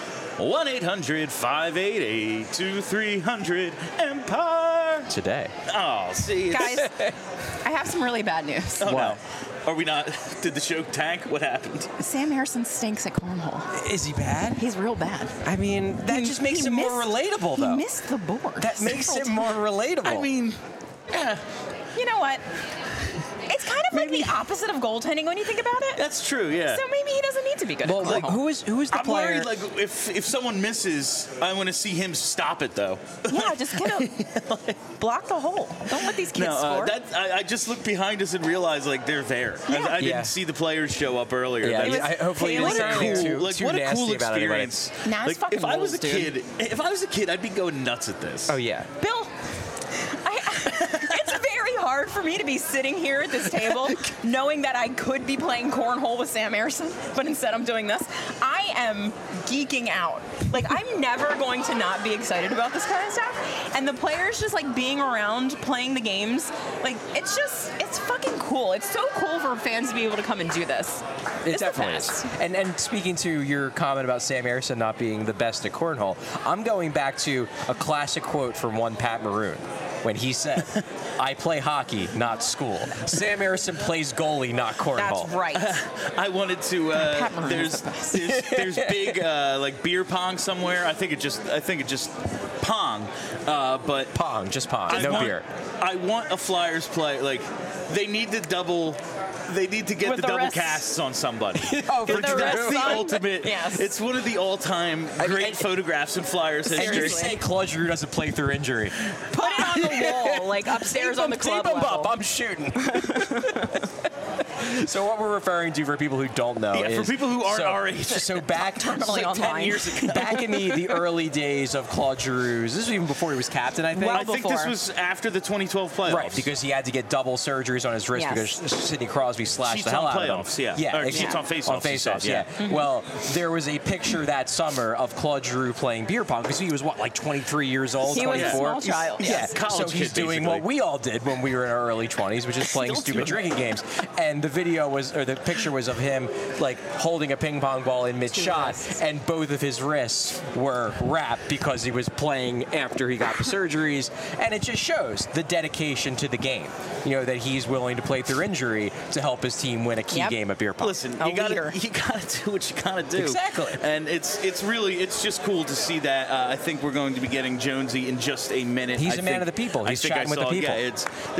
1-800-588-2300 Empire Today. See, Guys, I have some really bad news. Oh, no. Are we not? Did the show tank? What happened? Sam Harrison stinks at cornhole. Is he bad? He's real bad. I mean, that just makes him more relatable, though. He missed the board. That makes him more relatable. I mean, you know what? It's kind of like the opposite of goaltending when you think about it. That's true, yeah. So maybe he doesn't need to be good Well, at like, cornhole. who is the I'm player? worried, like, if someone misses, I want to see him stop it, though. Yeah, just kind of block the hole. Don't let these kids score. I just looked behind us and realized, like, they're there. Yeah. I didn't see the players show up earlier. Yeah, hopefully you Taylor. didn't say anything too What a nasty cool about anybody. experience. Nah, it's fucking if I was a rules, dude. kid, I'd be going nuts at this. Oh, yeah. Bill, it's very hard for me to be sitting here at this table knowing that I could be playing cornhole with Sam Harrison, but instead I'm doing this. I am geeking out. Like, I'm never going to not be excited about this kind of stuff. And the players just, like, being around, playing the games, like, it's fucking cool. It's so cool for fans to be able to come and do this. It It's the definitely best. is. And speaking to your comment about Sam Harrison not being the best at cornhole, I'm going back to a classic quote from one Pat Maroon when he said, I play hockey, not school. Sam Harrison plays goalie, not cornhole. That's right. I wanted to. Pat Maroon is the best. There's big like beer pong somewhere. I think it just pong, but Pong, just pong, no beer. I want a Flyers play. Like they need to get With the the double rest- casts on somebody. Oh, for the That's rest the on? ultimate. Yes. It's one of the all-time great photographs in Flyers And history. you say Claude Giroux doesn't play through injury. Put it on the wall, like upstairs on the club Tape 'em level. up, I'm shooting. So what we're referring to, for people who don't know, Yeah, is, for people who aren't our age. So back Terminally like 10 online. years ago. back in the early days of Claude Giroux, this was even before he was captain, I think. Well I think this before. was after the 2012 playoffs. Right, because he had to get double surgeries on his wrist Yes. because Sidney Crosby slashed Cheats the hell on out of him. playoffs, yeah. Or exactly. cheats on faceoffs, On he said, faceoffs, yeah. yeah. Well, there was a picture that summer of Claude Giroux playing beer pong because he was, like 23 years old, He was a 24? small child, yes. Yeah, College so he's kid, doing basically. what we all did when we were in our early 20s, which is playing Still stupid doing drinking games. And the video was, or the picture was of him like holding a ping pong ball in mid-shot, and both of his wrists were wrapped because he was playing after he got the surgeries, and it just shows the dedication to the game. You know, that he's willing to play through injury to help his team win a key game of beer pong. Listen, you gotta do what you gotta do. Exactly. And it's just cool to see that. I think we're going to be getting Jonesy in just a minute. He's a man of the people. He's chatting with the people. Yeah,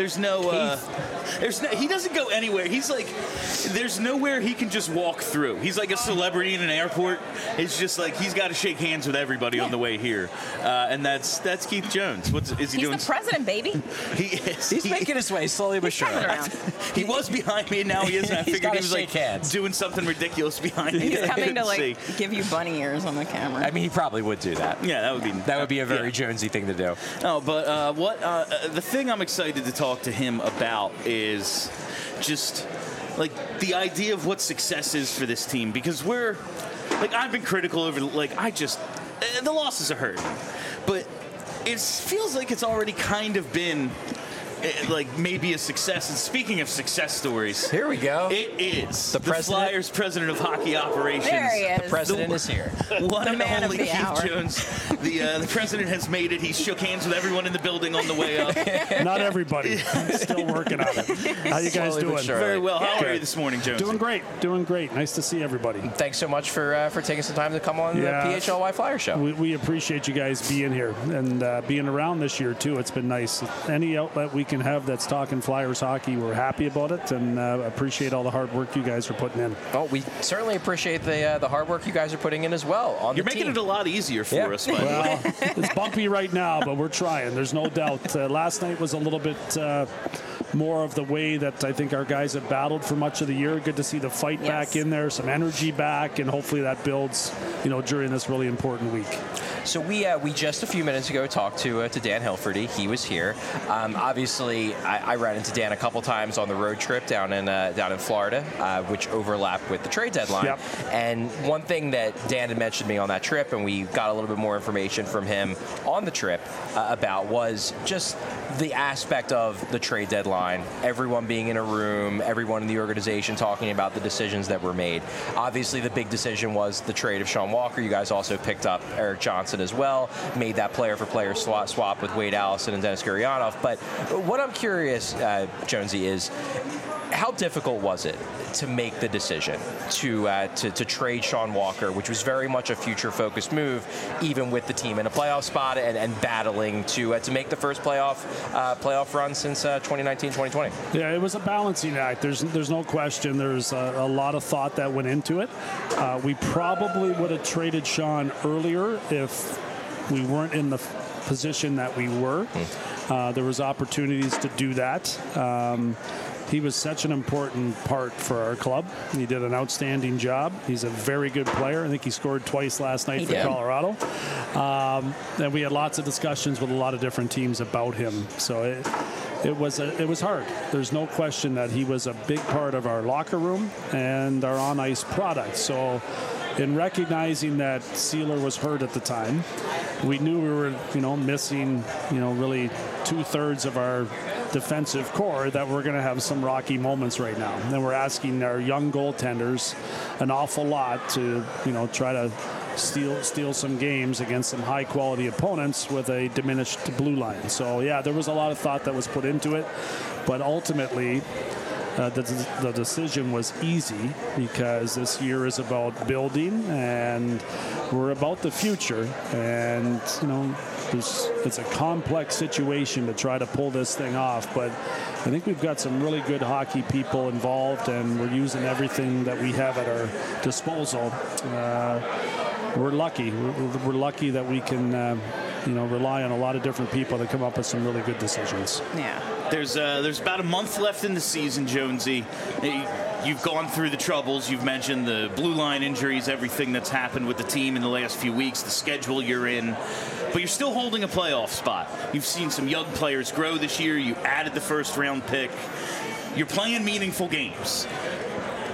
he doesn't go anywhere. He's like, there's nowhere he can just walk through. He's like a celebrity in an airport. It's just like he's got to shake hands with everybody on the way here, and that's Keith Jones. Is he doing? He's the president, baby. He is. He's making his way slowly but surely. He was behind me, and now he isn't. I figured he was like hands. Doing something ridiculous behind me. He's coming to give you bunny ears on the camera. I mean, he probably would do that. Yeah, that would be a very Jonesy thing to do. No, but the thing I'm excited to talk to him about is just like the idea of what success is for this team, because I've been critical over the losses are hurt, but it feels like it's already kind of been like maybe a success. And speaking of success stories, here we go. It is the Flyers president of hockey operations. There he is. The president is here. One and only Keith Jones. The president has made it. He shook hands with everyone in the building on the way up. Not everybody. Still working on it. How you guys doing? Very well. How are you this morning, Jones? Doing great. Nice to see everybody. Thanks so much for taking some time to come on the PHLY Flyer Show. We appreciate you guys being here and being around this year too. It's been nice. Any outlet we can have that's talking Flyers hockey, we're happy about it, and appreciate all the hard work you guys are putting in. Oh, we certainly appreciate the hard work you guys are putting in as well. You're making it a lot easier for us, by the way. It's bumpy right now, but we're trying. There's no doubt. Last night was a little bit more of the way that I think our guys have battled for much of the year. Good to see the fight back in there, some energy back, and hopefully that builds, during this really important week. So we just a few minutes ago talked to Dan Hilferty. He was here. Obviously, I ran into Dan a couple times on the road trip down in Florida, which overlapped with the trade deadline. Yep. And one thing that Dan had mentioned to me on that trip, and we got a little bit more information from him on the trip about, was just the aspect of the trade deadline, everyone being in a room, everyone in the organization talking about the decisions that were made. Obviously, the big decision was the trade of Sean Walker. You guys also picked up Erik Johnson as well, made that player-for-player swap with Wade Allison and Denis Gurianov. But what I'm curious, Jonesy, is how difficult was it to make the decision to trade Sean Walker, which was very much a future-focused move, even with the team in a playoff spot and battling to make the first playoff run since 2019-2020? Yeah, it was a balancing act. There's no question. There's a lot of thought that went into it. We probably would have traded Sean earlier if we weren't in the position that we were. There was opportunities to do that. He was such an important part for our club. He did an outstanding job. He's a very good player. I think he scored twice last night for Colorado. And we had lots of discussions with a lot of different teams about him. So it was hard. There's no question that he was a big part of our locker room and our on-ice product. So in recognizing that Sealer was hurt at the time, we knew we were, missing, really 2/3 of our defensive core, that we're going to have some rocky moments right now. And we're asking our young goaltenders an awful lot to, try to steal some games against some high-quality opponents with a diminished blue line. So, yeah, there was a lot of thought that was put into it. But ultimately, the decision was easy because this year is about building and we're about the future. And, it's a complex situation to try to pull this thing off. But I think we've got some really good hockey people involved, and we're using everything that we have at our disposal. We're lucky. We're lucky that we can, rely on a lot of different people to come up with some really good decisions. Yeah. There's about a month left in the season, Jonesy. You've gone through the troubles. You've mentioned the blue line injuries, everything that's happened with the team in the last few weeks, the schedule you're in. But you're still holding a playoff spot. You've seen some young players grow this year. You added the first-round pick. You're playing meaningful games.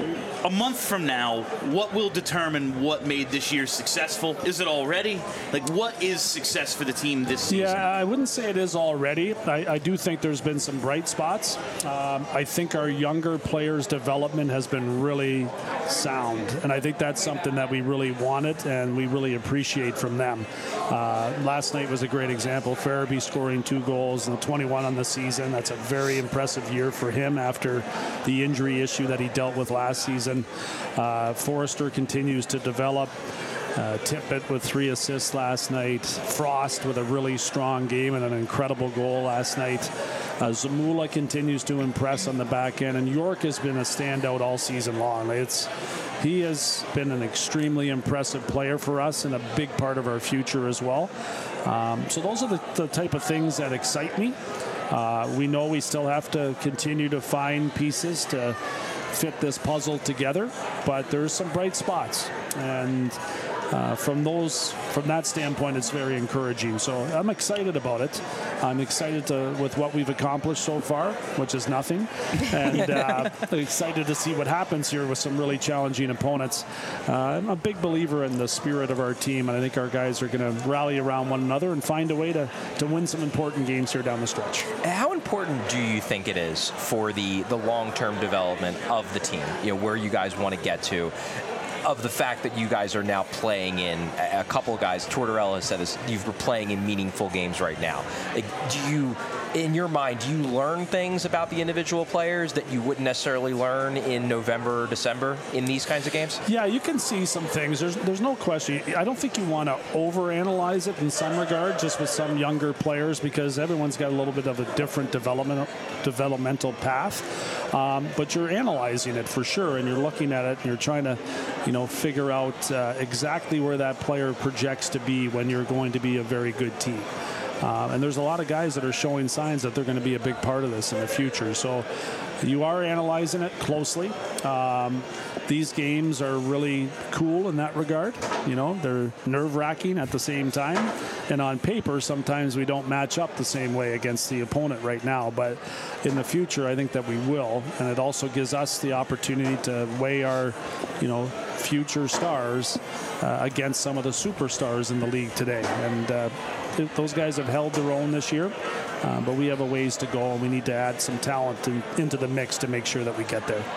a month from now, what will determine what made this year successful? Is it already? Like, what is success for the team this season? Yeah, I wouldn't say it is already. I do think there's been some bright spots. I think our younger players' development has been really sound, and I think that's something that we really wanted and we really appreciate from them. Last night was a great example. Farabee scoring 2 goals and 21 on the season. That's a very impressive year for him after the injury issue that he dealt with last season. Forrester continues to develop. Tippett with 3 assists last night. Frost with a really strong game and an incredible goal last night. Zamula continues to impress on the back end, and York has been a standout all season long. He has been an extremely impressive player for us and a big part of our future as well. So those are the type of things that excite me. We know we still have to continue to find pieces to fit this puzzle together, but there's some bright spots, and from that standpoint, it's very encouraging. So I'm excited about it. I'm excited with what we've accomplished so far, which is nothing, and excited to see what happens here with some really challenging opponents. I'm a big believer in the spirit of our team, and I think our guys are going to rally around one another and find a way to win some important games here down the stretch. How important do you think it is for the long-term development of the team, where you guys want to get to, of the fact that you guys are now playing in, a couple of guys, Tortorella has said this, you're playing in meaningful games right now. Like, in your mind, do you learn things about the individual players that you wouldn't necessarily learn in November or December in these kinds of games? Yeah, you can see some things. There's no question. I don't think you want to overanalyze it in some regard, just with some younger players, because everyone's got a little bit of a different developmental path. But you're analyzing it for sure, and you're looking at it, and you're trying to, figure out exactly where that player projects to be when you're going to be a very good team. And there's a lot of guys that are showing signs that they're going to be a big part of this in the future. So you are analyzing it closely. These games are really cool in that regard. They're nerve-wracking at the same time. And on paper, sometimes we don't match up the same way against the opponent right now. But in the future, I think that we will. And it also gives us the opportunity to weigh our, future stars against some of the superstars in the league today. And those guys have held their own this year, but we have a ways to go, and we need to add some talent into the mix to make sure that we get there.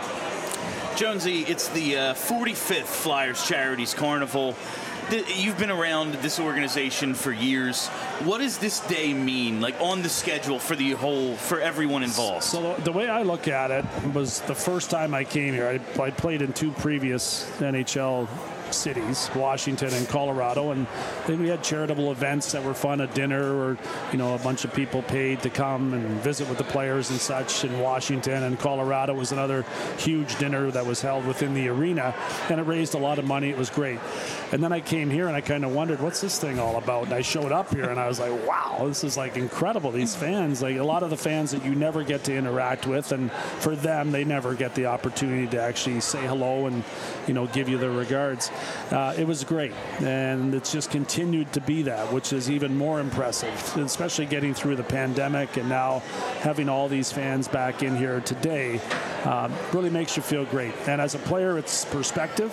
Jonesy, it's the 45th Flyers Charities Carnival. You've been around this organization for years. What does this day mean, like on the schedule for everyone involved? So the way I look at it was the first time I came here, I played in 2 previous NHL cities, Washington and Colorado, and then we had charitable events that were fun, a dinner or a bunch of people paid to come and visit with the players and such in Washington, and Colorado was another huge dinner that was held within the arena, and it raised a lot of money. It was great. And then I came here and I kind of wondered, what's this thing all about? And I showed up here and I was like, wow, this is like incredible. These fans, like a lot of the fans that you never get to interact with, and for them, they never get the opportunity to actually say hello and give you their regards. It was great, and it's just continued to be that, which is even more impressive, especially getting through the pandemic and now having all these fans back in here today. Really makes you feel great. And as a player, it's perspective.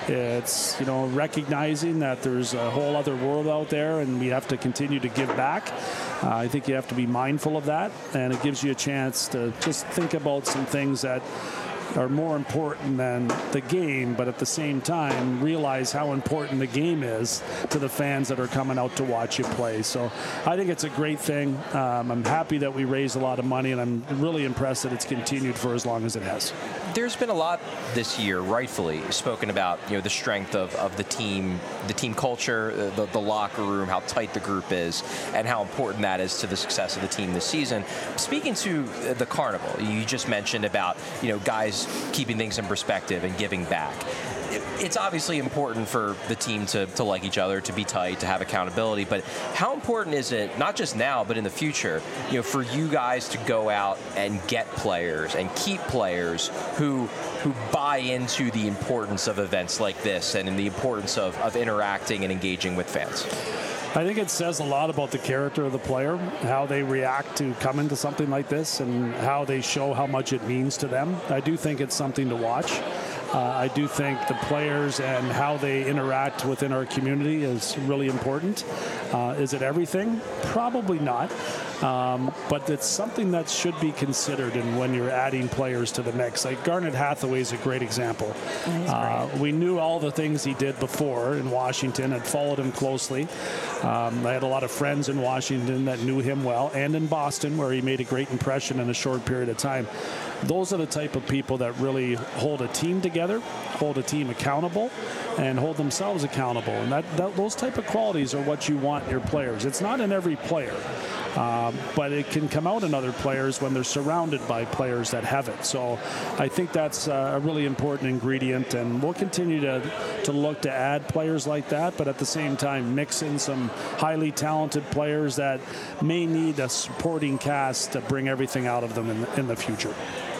It's recognizing that there's a whole other world out there, and we have to continue to give back. I think you have to be mindful of that, and it gives you a chance to just think about some things that are more important than the game, but at the same time realize how important the game is to the fans that are coming out to watch you play. So I think it's a great thing. I'm happy that we raised a lot of money, and I'm really impressed that it's continued for as long as it has. There's been a lot this year, rightfully, spoken about the strength of the team culture, the locker room, how tight the group is, and how important that is to the success of the team this season. Speaking to the Carnival, you just mentioned about guys keeping things in perspective and giving back. It's obviously important for the team to like each other, to be tight, to have accountability, but how important is it, not just now, but in the future, for you guys to go out and get players and keep players who buy into the importance of events like this and in the importance of interacting and engaging with fans? I think it says a lot about the character of the player, how they react to coming to something like this, and how they show how much it means to them. I do think it's something to watch. I do think the players and how they interact within our community is really important. Is it everything? Probably not. But it's something that should be considered in when you're adding players to the mix. Like Garnet Hathaway is a great example. We knew all the things he did before in Washington, had followed him closely. I had a lot of friends in Washington that knew him well, and in Boston, where he made a great impression in a short period of time. Those are the type of people that really hold a team together, hold a team accountable, and hold themselves accountable. And those type of qualities are what you want in your players. It's not in every player, but it can come out in other players when they're surrounded by players that have it. So I think that's a really important ingredient, and we'll continue to look to add players like that, but at the same time mix in some highly talented players that may need a supporting cast to bring everything out of them in the future.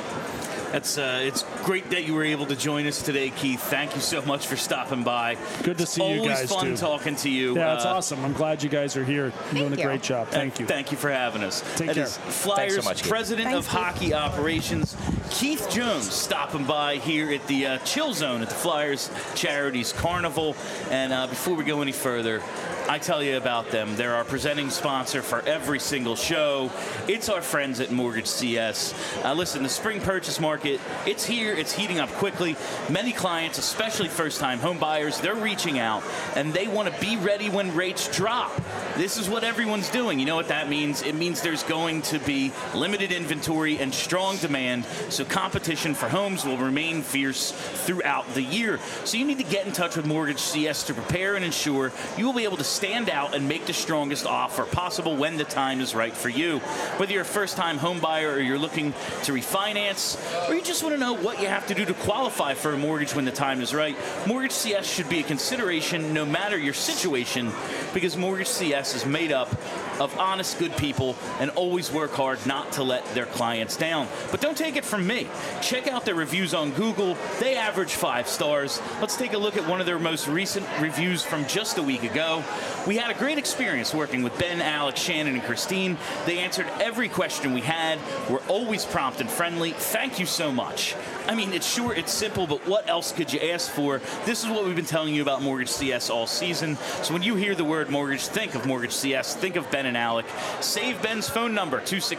It's great that you were able to join us today, Keith. Thank you so much for stopping by. Good to see you guys, too. Always fun talking to you. Yeah, it's awesome. I'm glad you guys are here. You're doing a great job. Thank you. Thank you for having us. Take care. Flyers so much, President of Hockey Operations, Keith Jones, stopping by here at the Chill Zone at the Flyers Charities Carnival. And before we go any further, I tell you about them. They're our presenting sponsor for every single show. It's our friends at Mortgage CS. Listen, the spring purchase market, it's here. It's heating up quickly. Many clients, especially first-time home buyers, they're reaching out, and they want to be ready when rates drop. This is what everyone's doing. You know what that means? It means there's going to be limited inventory and strong demand, so competition for homes will remain fierce throughout the year. So you need to get in touch with Mortgage CS to prepare and ensure you will be able to stand out and make the strongest offer possible when the time is right for you. Whether you're a first-time home buyer or you're looking to refinance, or you just want to know what you have to do to qualify for a mortgage when the time is right, Mortgage CS should be a consideration no matter your situation, because Mortgage CS is made up of honest, good people and always work hard not to let their clients down. But don't take it from me. Check out their reviews on Google. They average 5 stars. Let's take a look at one of their most recent reviews from just a week ago. We had a great experience working with Ben, Alex, Shannon, and Christine. They answered every question we had. We're always prompt and friendly. Thank you so much. I mean, it's short, it's simple, but what else could you ask for? This is what we've been telling you about Mortgage CS all season. So when you hear the word mortgage, think of Mortgage CS. Think of Ben and Alec. Save Ben's phone number,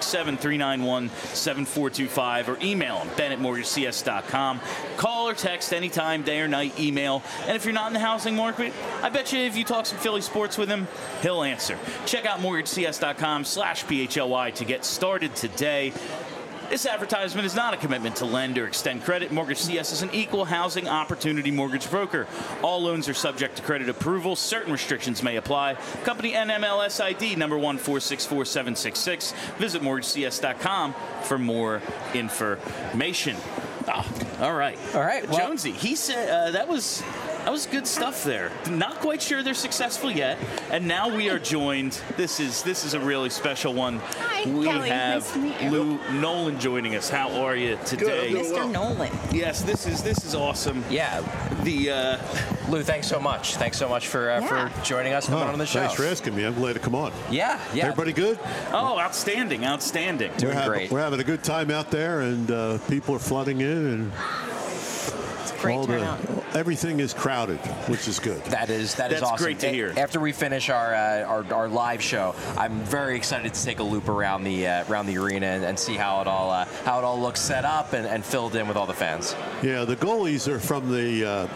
267-391-7425, or email him, ben@mortgagecs.com. Call or text anytime, day or night, email. And if you're not in the housing market, I bet you if you talk some Philly sports with him, he'll answer. Check out mortgagecs.com/PHLY to get started today. This advertisement is not a commitment to lend or extend credit. Mortgage CS is an equal housing opportunity mortgage broker. All loans are subject to credit approval. Certain restrictions may apply. Company NMLS ID number 1464766. Visit mortgagecs.com for more information. Oh, all right. Well, Jonesy, he said that was good stuff there. Not quite sure they're successful yet, and now we are joined. This is a really special one. Hi, we Kelly. have Nice to meet you. Lou Nolan joining us. How are you today? Good, Mr. Nolan. Yes, this is awesome. Yeah. Lou, thanks so much. Thanks so much for joining us and coming on the show. Thanks for asking me. I'm glad to come on. Yeah. Everybody good? Oh, outstanding. Doing great. We're having a good time out there, and people are flooding in, and Great turnout. Everything is crowded, which is good. That's awesome. Great to hear. After we finish our live show, I'm very excited to take a loop around the arena and see how it all looks set up and filled in with all the fans. Yeah, the goalies are from the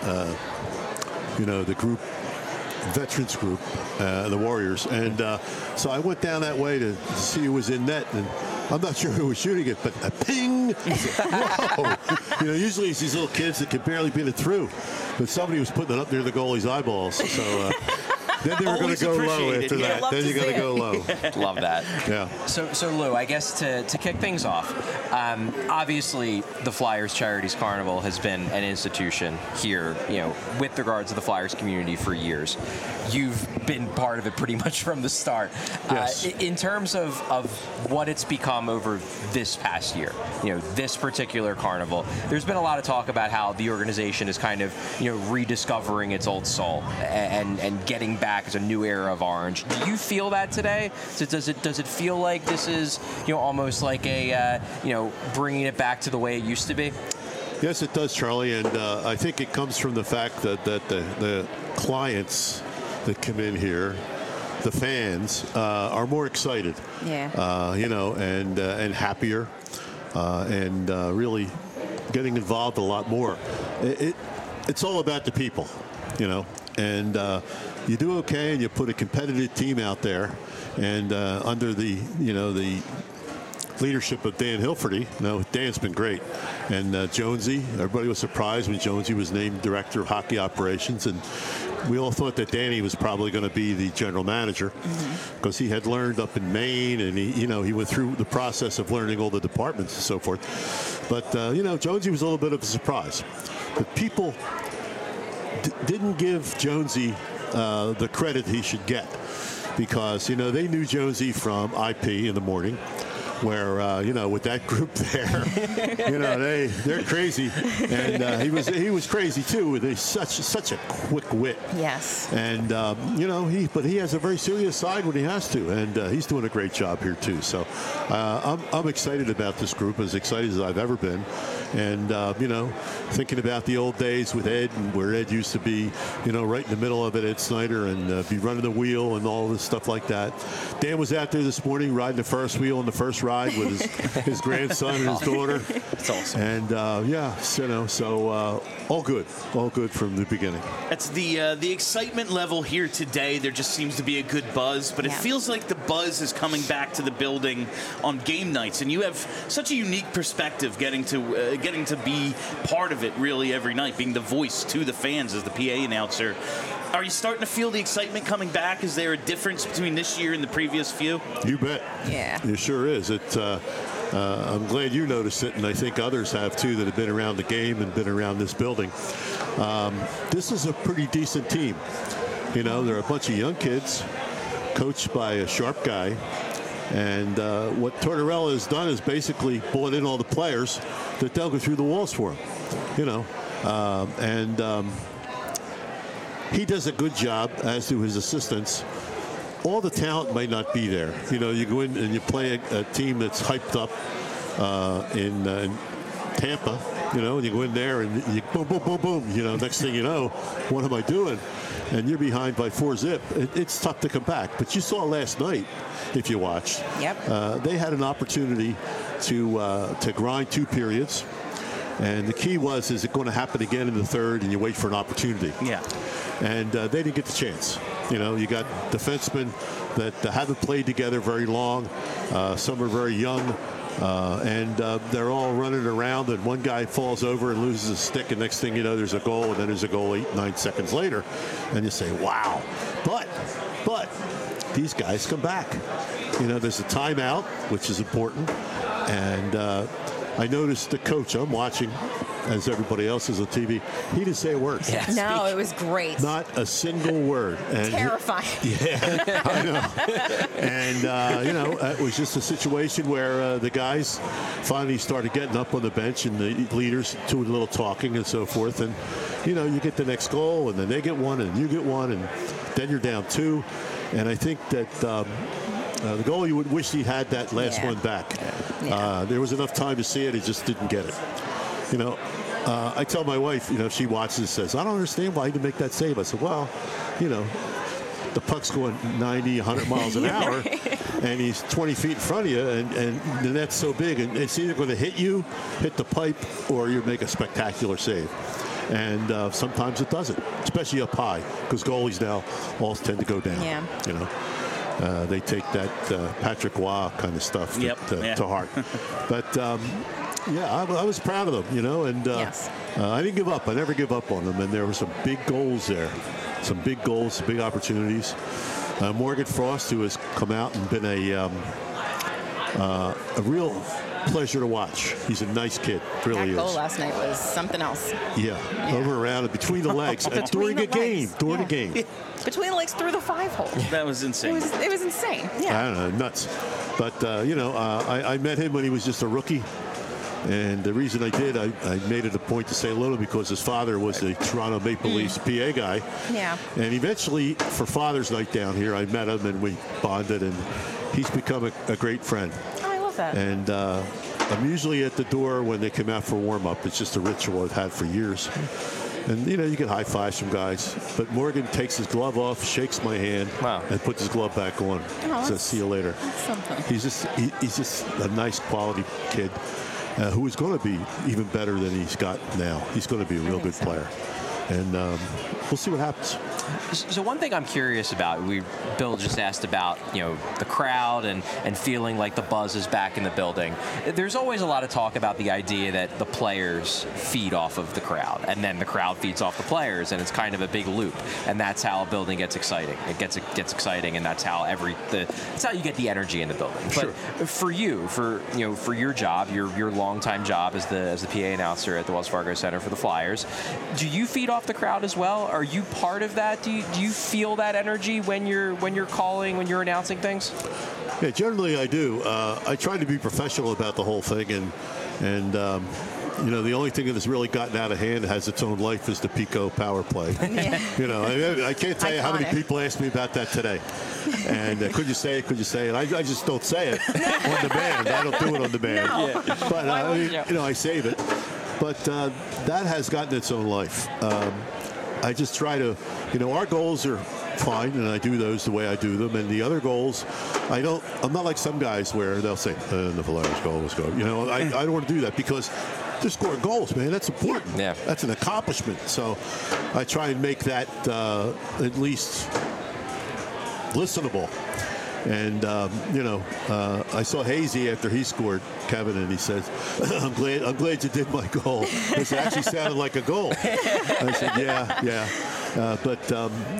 the group. Veterans group, the Warriors, and so I went down that way to see who was in net, and I'm not sure who was shooting it, but a ping! Whoa! Usually it's these little kids that can barely beat it through, but somebody was putting it up near the goalie's eyeballs. So then they were going to go low after that. Then you got to go low. Love that. Yeah. So Lou, I guess to kick things off, obviously the Flyers Charities Carnival has been an institution here, with regards to the Flyers community for years. You've been part of it pretty much from the start. Yes. In terms of what it's become over this past year, this particular carnival, there's been a lot of talk about how the organization is kind of, rediscovering its old soul and getting back as a new era of orange. Do you feel that today? So does it feel like this is, almost like a, bringing it back to the way it used to be? Yes, it does, Charlie, and I think it comes from the fact that the clients that come in here, the fans, are more excited. Yeah. And happier, and really getting involved a lot more. It's all about the people, and you do okay, and you put a competitive team out there, and under the leadership of Dan Hilferty. Dan's been great. And Jonesy, everybody was surprised when Jonesy was named director of hockey operations. And we all thought that Danny was probably going to be the general manager because he had learned up in Maine, and he went through the process of learning all the departments and so forth. But, Jonesy was a little bit of a surprise. But people didn't give Jonesy the credit he should get because, they knew Jonesy from IP in the morning, where with that group there, they're crazy, and he was crazy too. With such a quick wit. Yes. And but he has a very serious side when he has to, and he's doing a great job here too. So I'm excited about this group, as excited as I've ever been, and thinking about the old days with Ed, and where Ed used to be, right in the middle of it, Ed Snyder, and be running the wheel and all this stuff like that. Dan was out there this morning riding the first wheel in the first ride with his grandson and his daughter. That's awesome. And so all good from the beginning. It's the excitement level here today. There just seems to be a good buzz, but it feels like the buzz is coming back to the building on game nights, and you have such a unique perspective getting to be part of it really every night, being the voice to the fans as the PA announcer. Are you starting to feel the excitement coming back? Is there a difference between this year and the previous few? You bet. Yeah. It sure is. I'm glad you noticed it, and I think others have too that have been around the game and been around this building. This is a pretty decent team. They're a bunch of young kids coached by a sharp guy. And what Tortorella has done is basically brought in all the players that they'll go through the walls for him. He does a good job, as do his assistants. All the talent might not be there. You go in and you play a team that's hyped up in Tampa, and you go in there and you boom, boom, boom, boom. Next thing you know, what am I doing? And you're behind by 4-zip. It's tough to come back. But you saw last night, if you watched, they had an opportunity to grind 2 periods. And the key was, is it going to happen again in the third, and you wait for an opportunity? Yeah. And they didn't get the chance. You got defensemen that haven't played together very long. Some are very young. And they're all running around, and one guy falls over and loses a stick, and next thing you know, there's a goal, and then there's a goal 8-9 seconds later. And you say, wow. But these guys come back. There's a timeout, which is important. And I noticed the coach, I'm watching, as everybody else is on TV, he didn't say a word. Yes. No, it was great. Not a single word. And terrifying. Yeah, I know. And, it was just a situation where the guys finally started getting up on the bench, and the leaders doing a little talking and so forth. And, you get the next goal, and then they get one, and you get one, and then you're down 2. And I think that the goal, you would wish he had that last one back. Yeah. There was enough time to see it. He just didn't get it. I tell my wife, if she watches and says, I don't understand why he didn't make that save. I said, well, the puck's going 90, 100 miles an hour, and he's 20 feet in front of you, and the net's so big, and it's either going to hit you, hit the pipe, or you make a spectacular save. And sometimes it doesn't, especially up high, because goalies now all tend to go down. Yeah. They take that Patrick Waugh kind of stuff to heart. But, I was proud of them, and I didn't give up. I never give up on them. And there were some big goals there, some big goals, big opportunities. Morgan Frost, who has come out and been a real pleasure to watch. He's a nice kid, really is. That goal last night was something else. Yeah. Over and around and between the legs. During a game. During a game. Between the legs through the 5-hole. That was insane. It was insane. Yeah. I don't know, nuts. But, I met him when he was just a rookie. And the reason I did, I made it a point to say hello because his father was a Toronto Maple Leafs PA guy. Yeah. And eventually, for Father's Night down here, I met him and we bonded, and he's become a great friend. Oh, I love that. And I'm usually at the door when they come out for warm-up. It's just a ritual I've had for years. And, you get high fives from guys. But Morgan takes his glove off, shakes my hand, and puts his glove back on. Says, see you later. He's just a nice quality kid who is going to be even better than he's got now. He's going to be a real good player. And we'll see what happens. So one thing I'm curious about, Bill just asked about, the crowd and feeling like the buzz is back in the building. There's always a lot of talk about the idea that the players feed off of the crowd, and then the crowd feeds off the players, and it's kind of a big loop. And that's how a building gets exciting. It gets exciting, and that's how that's how you get the energy in the building. Sure. But for you, for your job, your longtime job as the PA announcer at the Wells Fargo Center for the Flyers, do you feed off the crowd as well? Are you part of that? Do you feel that energy when you're calling, when you're announcing things? Yeah, generally I do. I try to be professional about the whole thing, and the only thing that has really gotten out of hand, has its own life, is the Pico power play. Yeah. I can't tell you how many people asked me about that today. And could you say it? Could you say it? I just don't say it on demand. I don't do it on demand. No. Yeah. But I save it. But that has gotten its own life. I just try to, our goals are fine, and I do those the way I do them. And the other goals, I'm not like some guys where they'll say, the Flyers goal was good. I don't want to do that, because they're scoring goals, man. That's important. Yeah. That's an accomplishment. So I try and make that at least listenable. And, I saw Hazy after he scored, Kevin, and he says, I'm glad you did my goal. It actually sounded like a goal. I said, yeah. But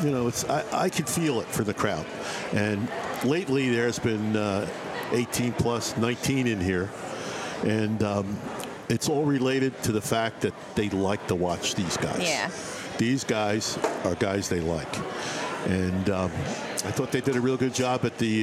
I could feel it for the crowd. And lately there's been 18 plus, 19 in here. And it's all related to the fact that they like to watch these guys. Yeah. These guys are guys they like. And I thought they did a real good job at the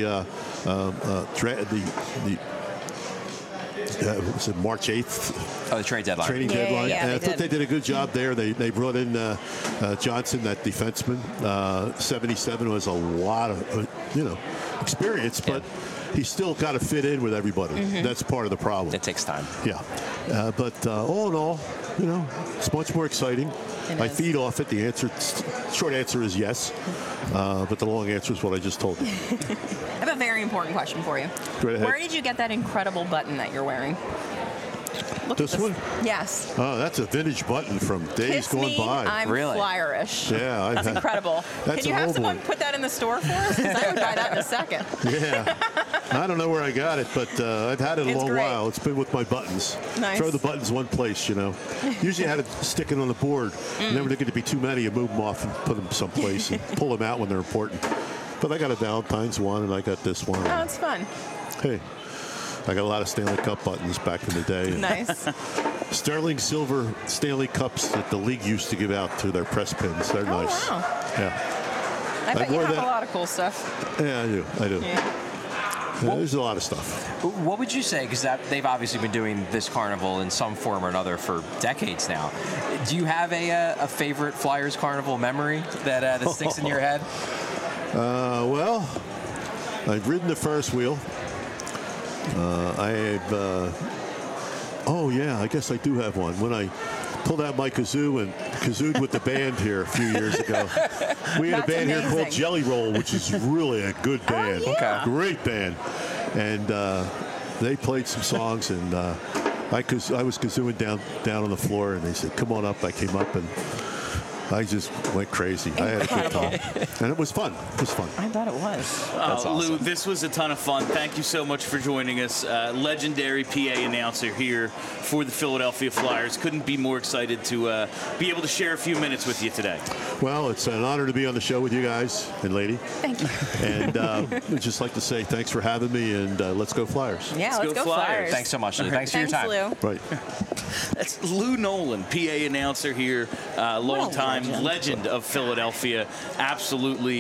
was it March 8th? Oh, the trade deadline. Trading deadline. Yeah, and I thought they did a good job there. They brought in Johnson, that defenseman. 77 was a lot of experience, but he's still got to fit in with everybody. Mm-hmm. That's part of the problem. It takes time. Yeah. But all in all, it's much more exciting. I feed off it. The short answer is yes. But the long answer is what I just told you. I have a very important question for you. Go ahead. Where did you get that incredible button that you're wearing? Look this one? Yes. Oh, that's a vintage button from days gone by. I'm Flyerish. Yeah. That's incredible. Can you have someone put that in the store for us? Because I would buy that in a second. Yeah. I don't know where I got it, but I've had it a long while. It's been with my buttons. Nice. Throw the buttons one place, Usually I had it sticking on the board. Never get to be too many. You move them off and put them someplace and pull them out when they're important. But I got a Valentine's one, and I got this one. Oh, it's fun. Hey. I got a lot of Stanley Cup buttons back in the day. Nice. Sterling silver Stanley Cups that the league used to give out to their press pins. They're nice. Wow. Yeah. I bet you have a lot of cool stuff. Yeah, I do. Yeah. There's a lot of stuff. What would you say, because they've obviously been doing this carnival in some form or another for decades now. Do you have a favorite Flyers carnival memory that sticks in your head? Well, I've ridden the Ferris wheel. I guess I do have one. When I pulled out my kazoo and kazooed with the band here a few years ago. We had a band here called Jelly Roll, which is really a good band. Oh, yeah. Great band. And they played some songs, and I was kazooing down on the floor, and they said, come on up. I came up, and I just went crazy. I had a good time. And it was fun. It was fun. I bet it was. That's awesome. Lou, this was a ton of fun. Thank you so much for joining us. Legendary PA announcer here for the Philadelphia Flyers. Couldn't be more excited to be able to share a few minutes with you today. Well, it's an honor to be on the show with you guys and lady. Thank you. And I'd just like to say thanks for having me, and let's go Flyers. Yeah, let's go Flyers. Thanks so much, Lou. Thanks for your time. Lou. Right. That's Lou Nolan, PA announcer here, long-time legend of Philadelphia. Absolutely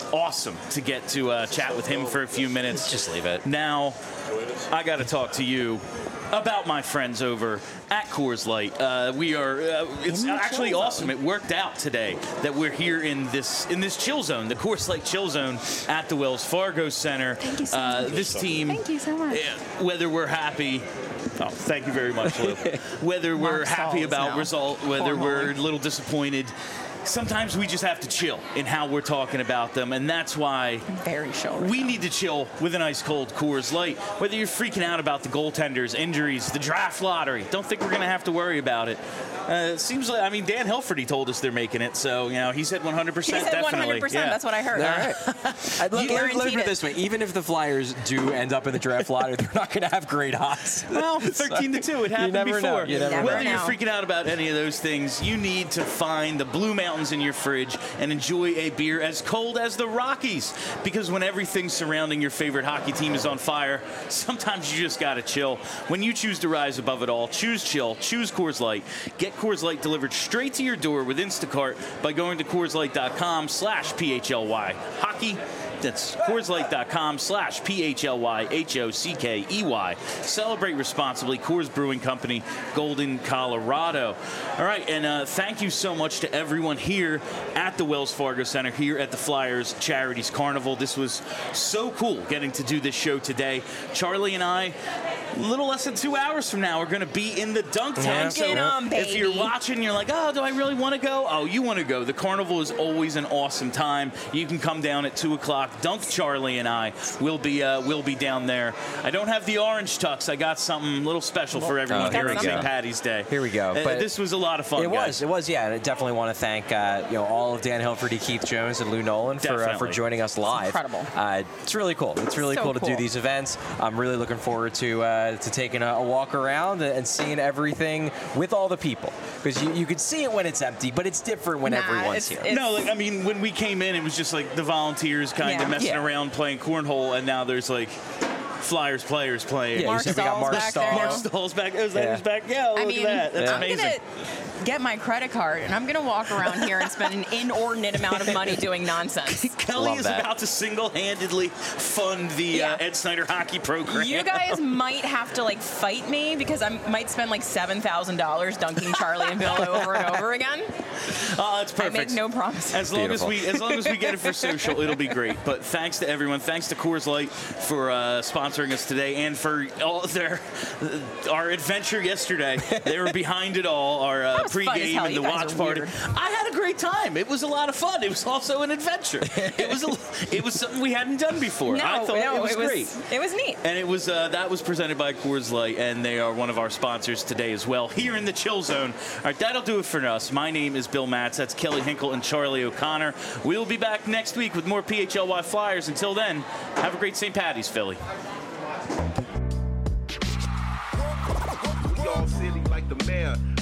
awesome to get to chat with him for a few minutes. Just leave it. Now, I got to talk to you about my friends over at Coors Light. It's actually awesome. It worked out today that we're here in this chill zone, the Coors Light chill zone at the Wells Fargo Center. Thank you so much. This team, Thank you so much. Whether we're happy. Oh, thank you very much, Lou. Whether we're happy about result, whether we're a little disappointed, sometimes we just have to chill in how we're talking about them, and that's why very chill. We need to chill with an ice cold Coors Light. Whether you're freaking out about the goaltenders, injuries, the draft lottery, don't think we're going to have to worry about it. It seems like, Dan Hilferty told us they're making it, so he said 100%. He said definitely. 100%. Yeah. That's what I heard. All right. Look at it this way: even if the Flyers do end up in the draft lottery, they're not going to have great odds. Well, 13-2, it happened before. Whether you're freaking out about any of those things, you need to find the Blue Mountains in your fridge and enjoy a beer as cold as the Rockies. Because when everything surrounding your favorite hockey team is on fire, sometimes you just gotta chill. When you choose to rise above it all, choose chill, choose Coors Light. Get Coors Light delivered straight to your door with Instacart by going to CoorsLight.com/PHLY. Hockey. That's CoorsLight.com/PHLYHOCKEY. Celebrate responsibly. Coors Brewing Company, Golden, Colorado. All right, and thank you so much to everyone here at the Wells Fargo Center, here at the Flyers Charities Carnival. This was so cool getting to do this show today. Charlie and I, a little less than 2 hours from now, we're going to be in the dunk tank. So if you're watching, you're like, oh, do I really want to go? Oh, you want to go. The carnival is always an awesome time. You can come down at 2 o'clock. Dunk Charlie and I will be down there. I don't have the orange tux. I got something a little special for everyone here on St. Patty's Day. Here we go. But this was a lot of fun. It was, yeah. And I definitely want to thank all of Dan Hilferty, Keith Jones, and Lou Nolan for joining us live. It's incredible. It's really cool. It's really cool to do these events. I'm really looking forward to taking a walk around and seeing everything with all the people, because you can see it when it's empty, but it's different when everyone's here. When we came in, it was just like the volunteers kind of messing around playing cornhole, and now there's like Flyers players playing. Yeah, Mark Stahl's back. Who's back? Yeah, look at that. That's amazing. I'm gonna get my credit card and I'm gonna walk around here and spend an inordinate amount of money doing nonsense. Kelly is about to single-handedly fund the Ed Snyder hockey program. You guys might have to fight me, because I might spend $7,000 dunking Charlie and Bill over and over again. Oh, that's perfect. I make no promises. As long as we get it for social, it'll be great. But thanks to everyone. Thanks to Coors Light for sponsoring us today, and for all our adventure yesterday. They were behind it all. Our pregame and the watch party. I had a great time. It was a lot of fun. It was also an adventure. It was something we hadn't done before. I thought it was great. It was neat. And it was that was presented by Coors Light, and they are one of our sponsors today as well, here in the Chill Zone. All right, that'll do it for us. My name is Bill Matz. That's Kelly Hinkle and Charlie O'Connor. We'll be back next week with more PHLY Flyers. Until then, have a great St. Patty's, Philly. We all silly like the mayor.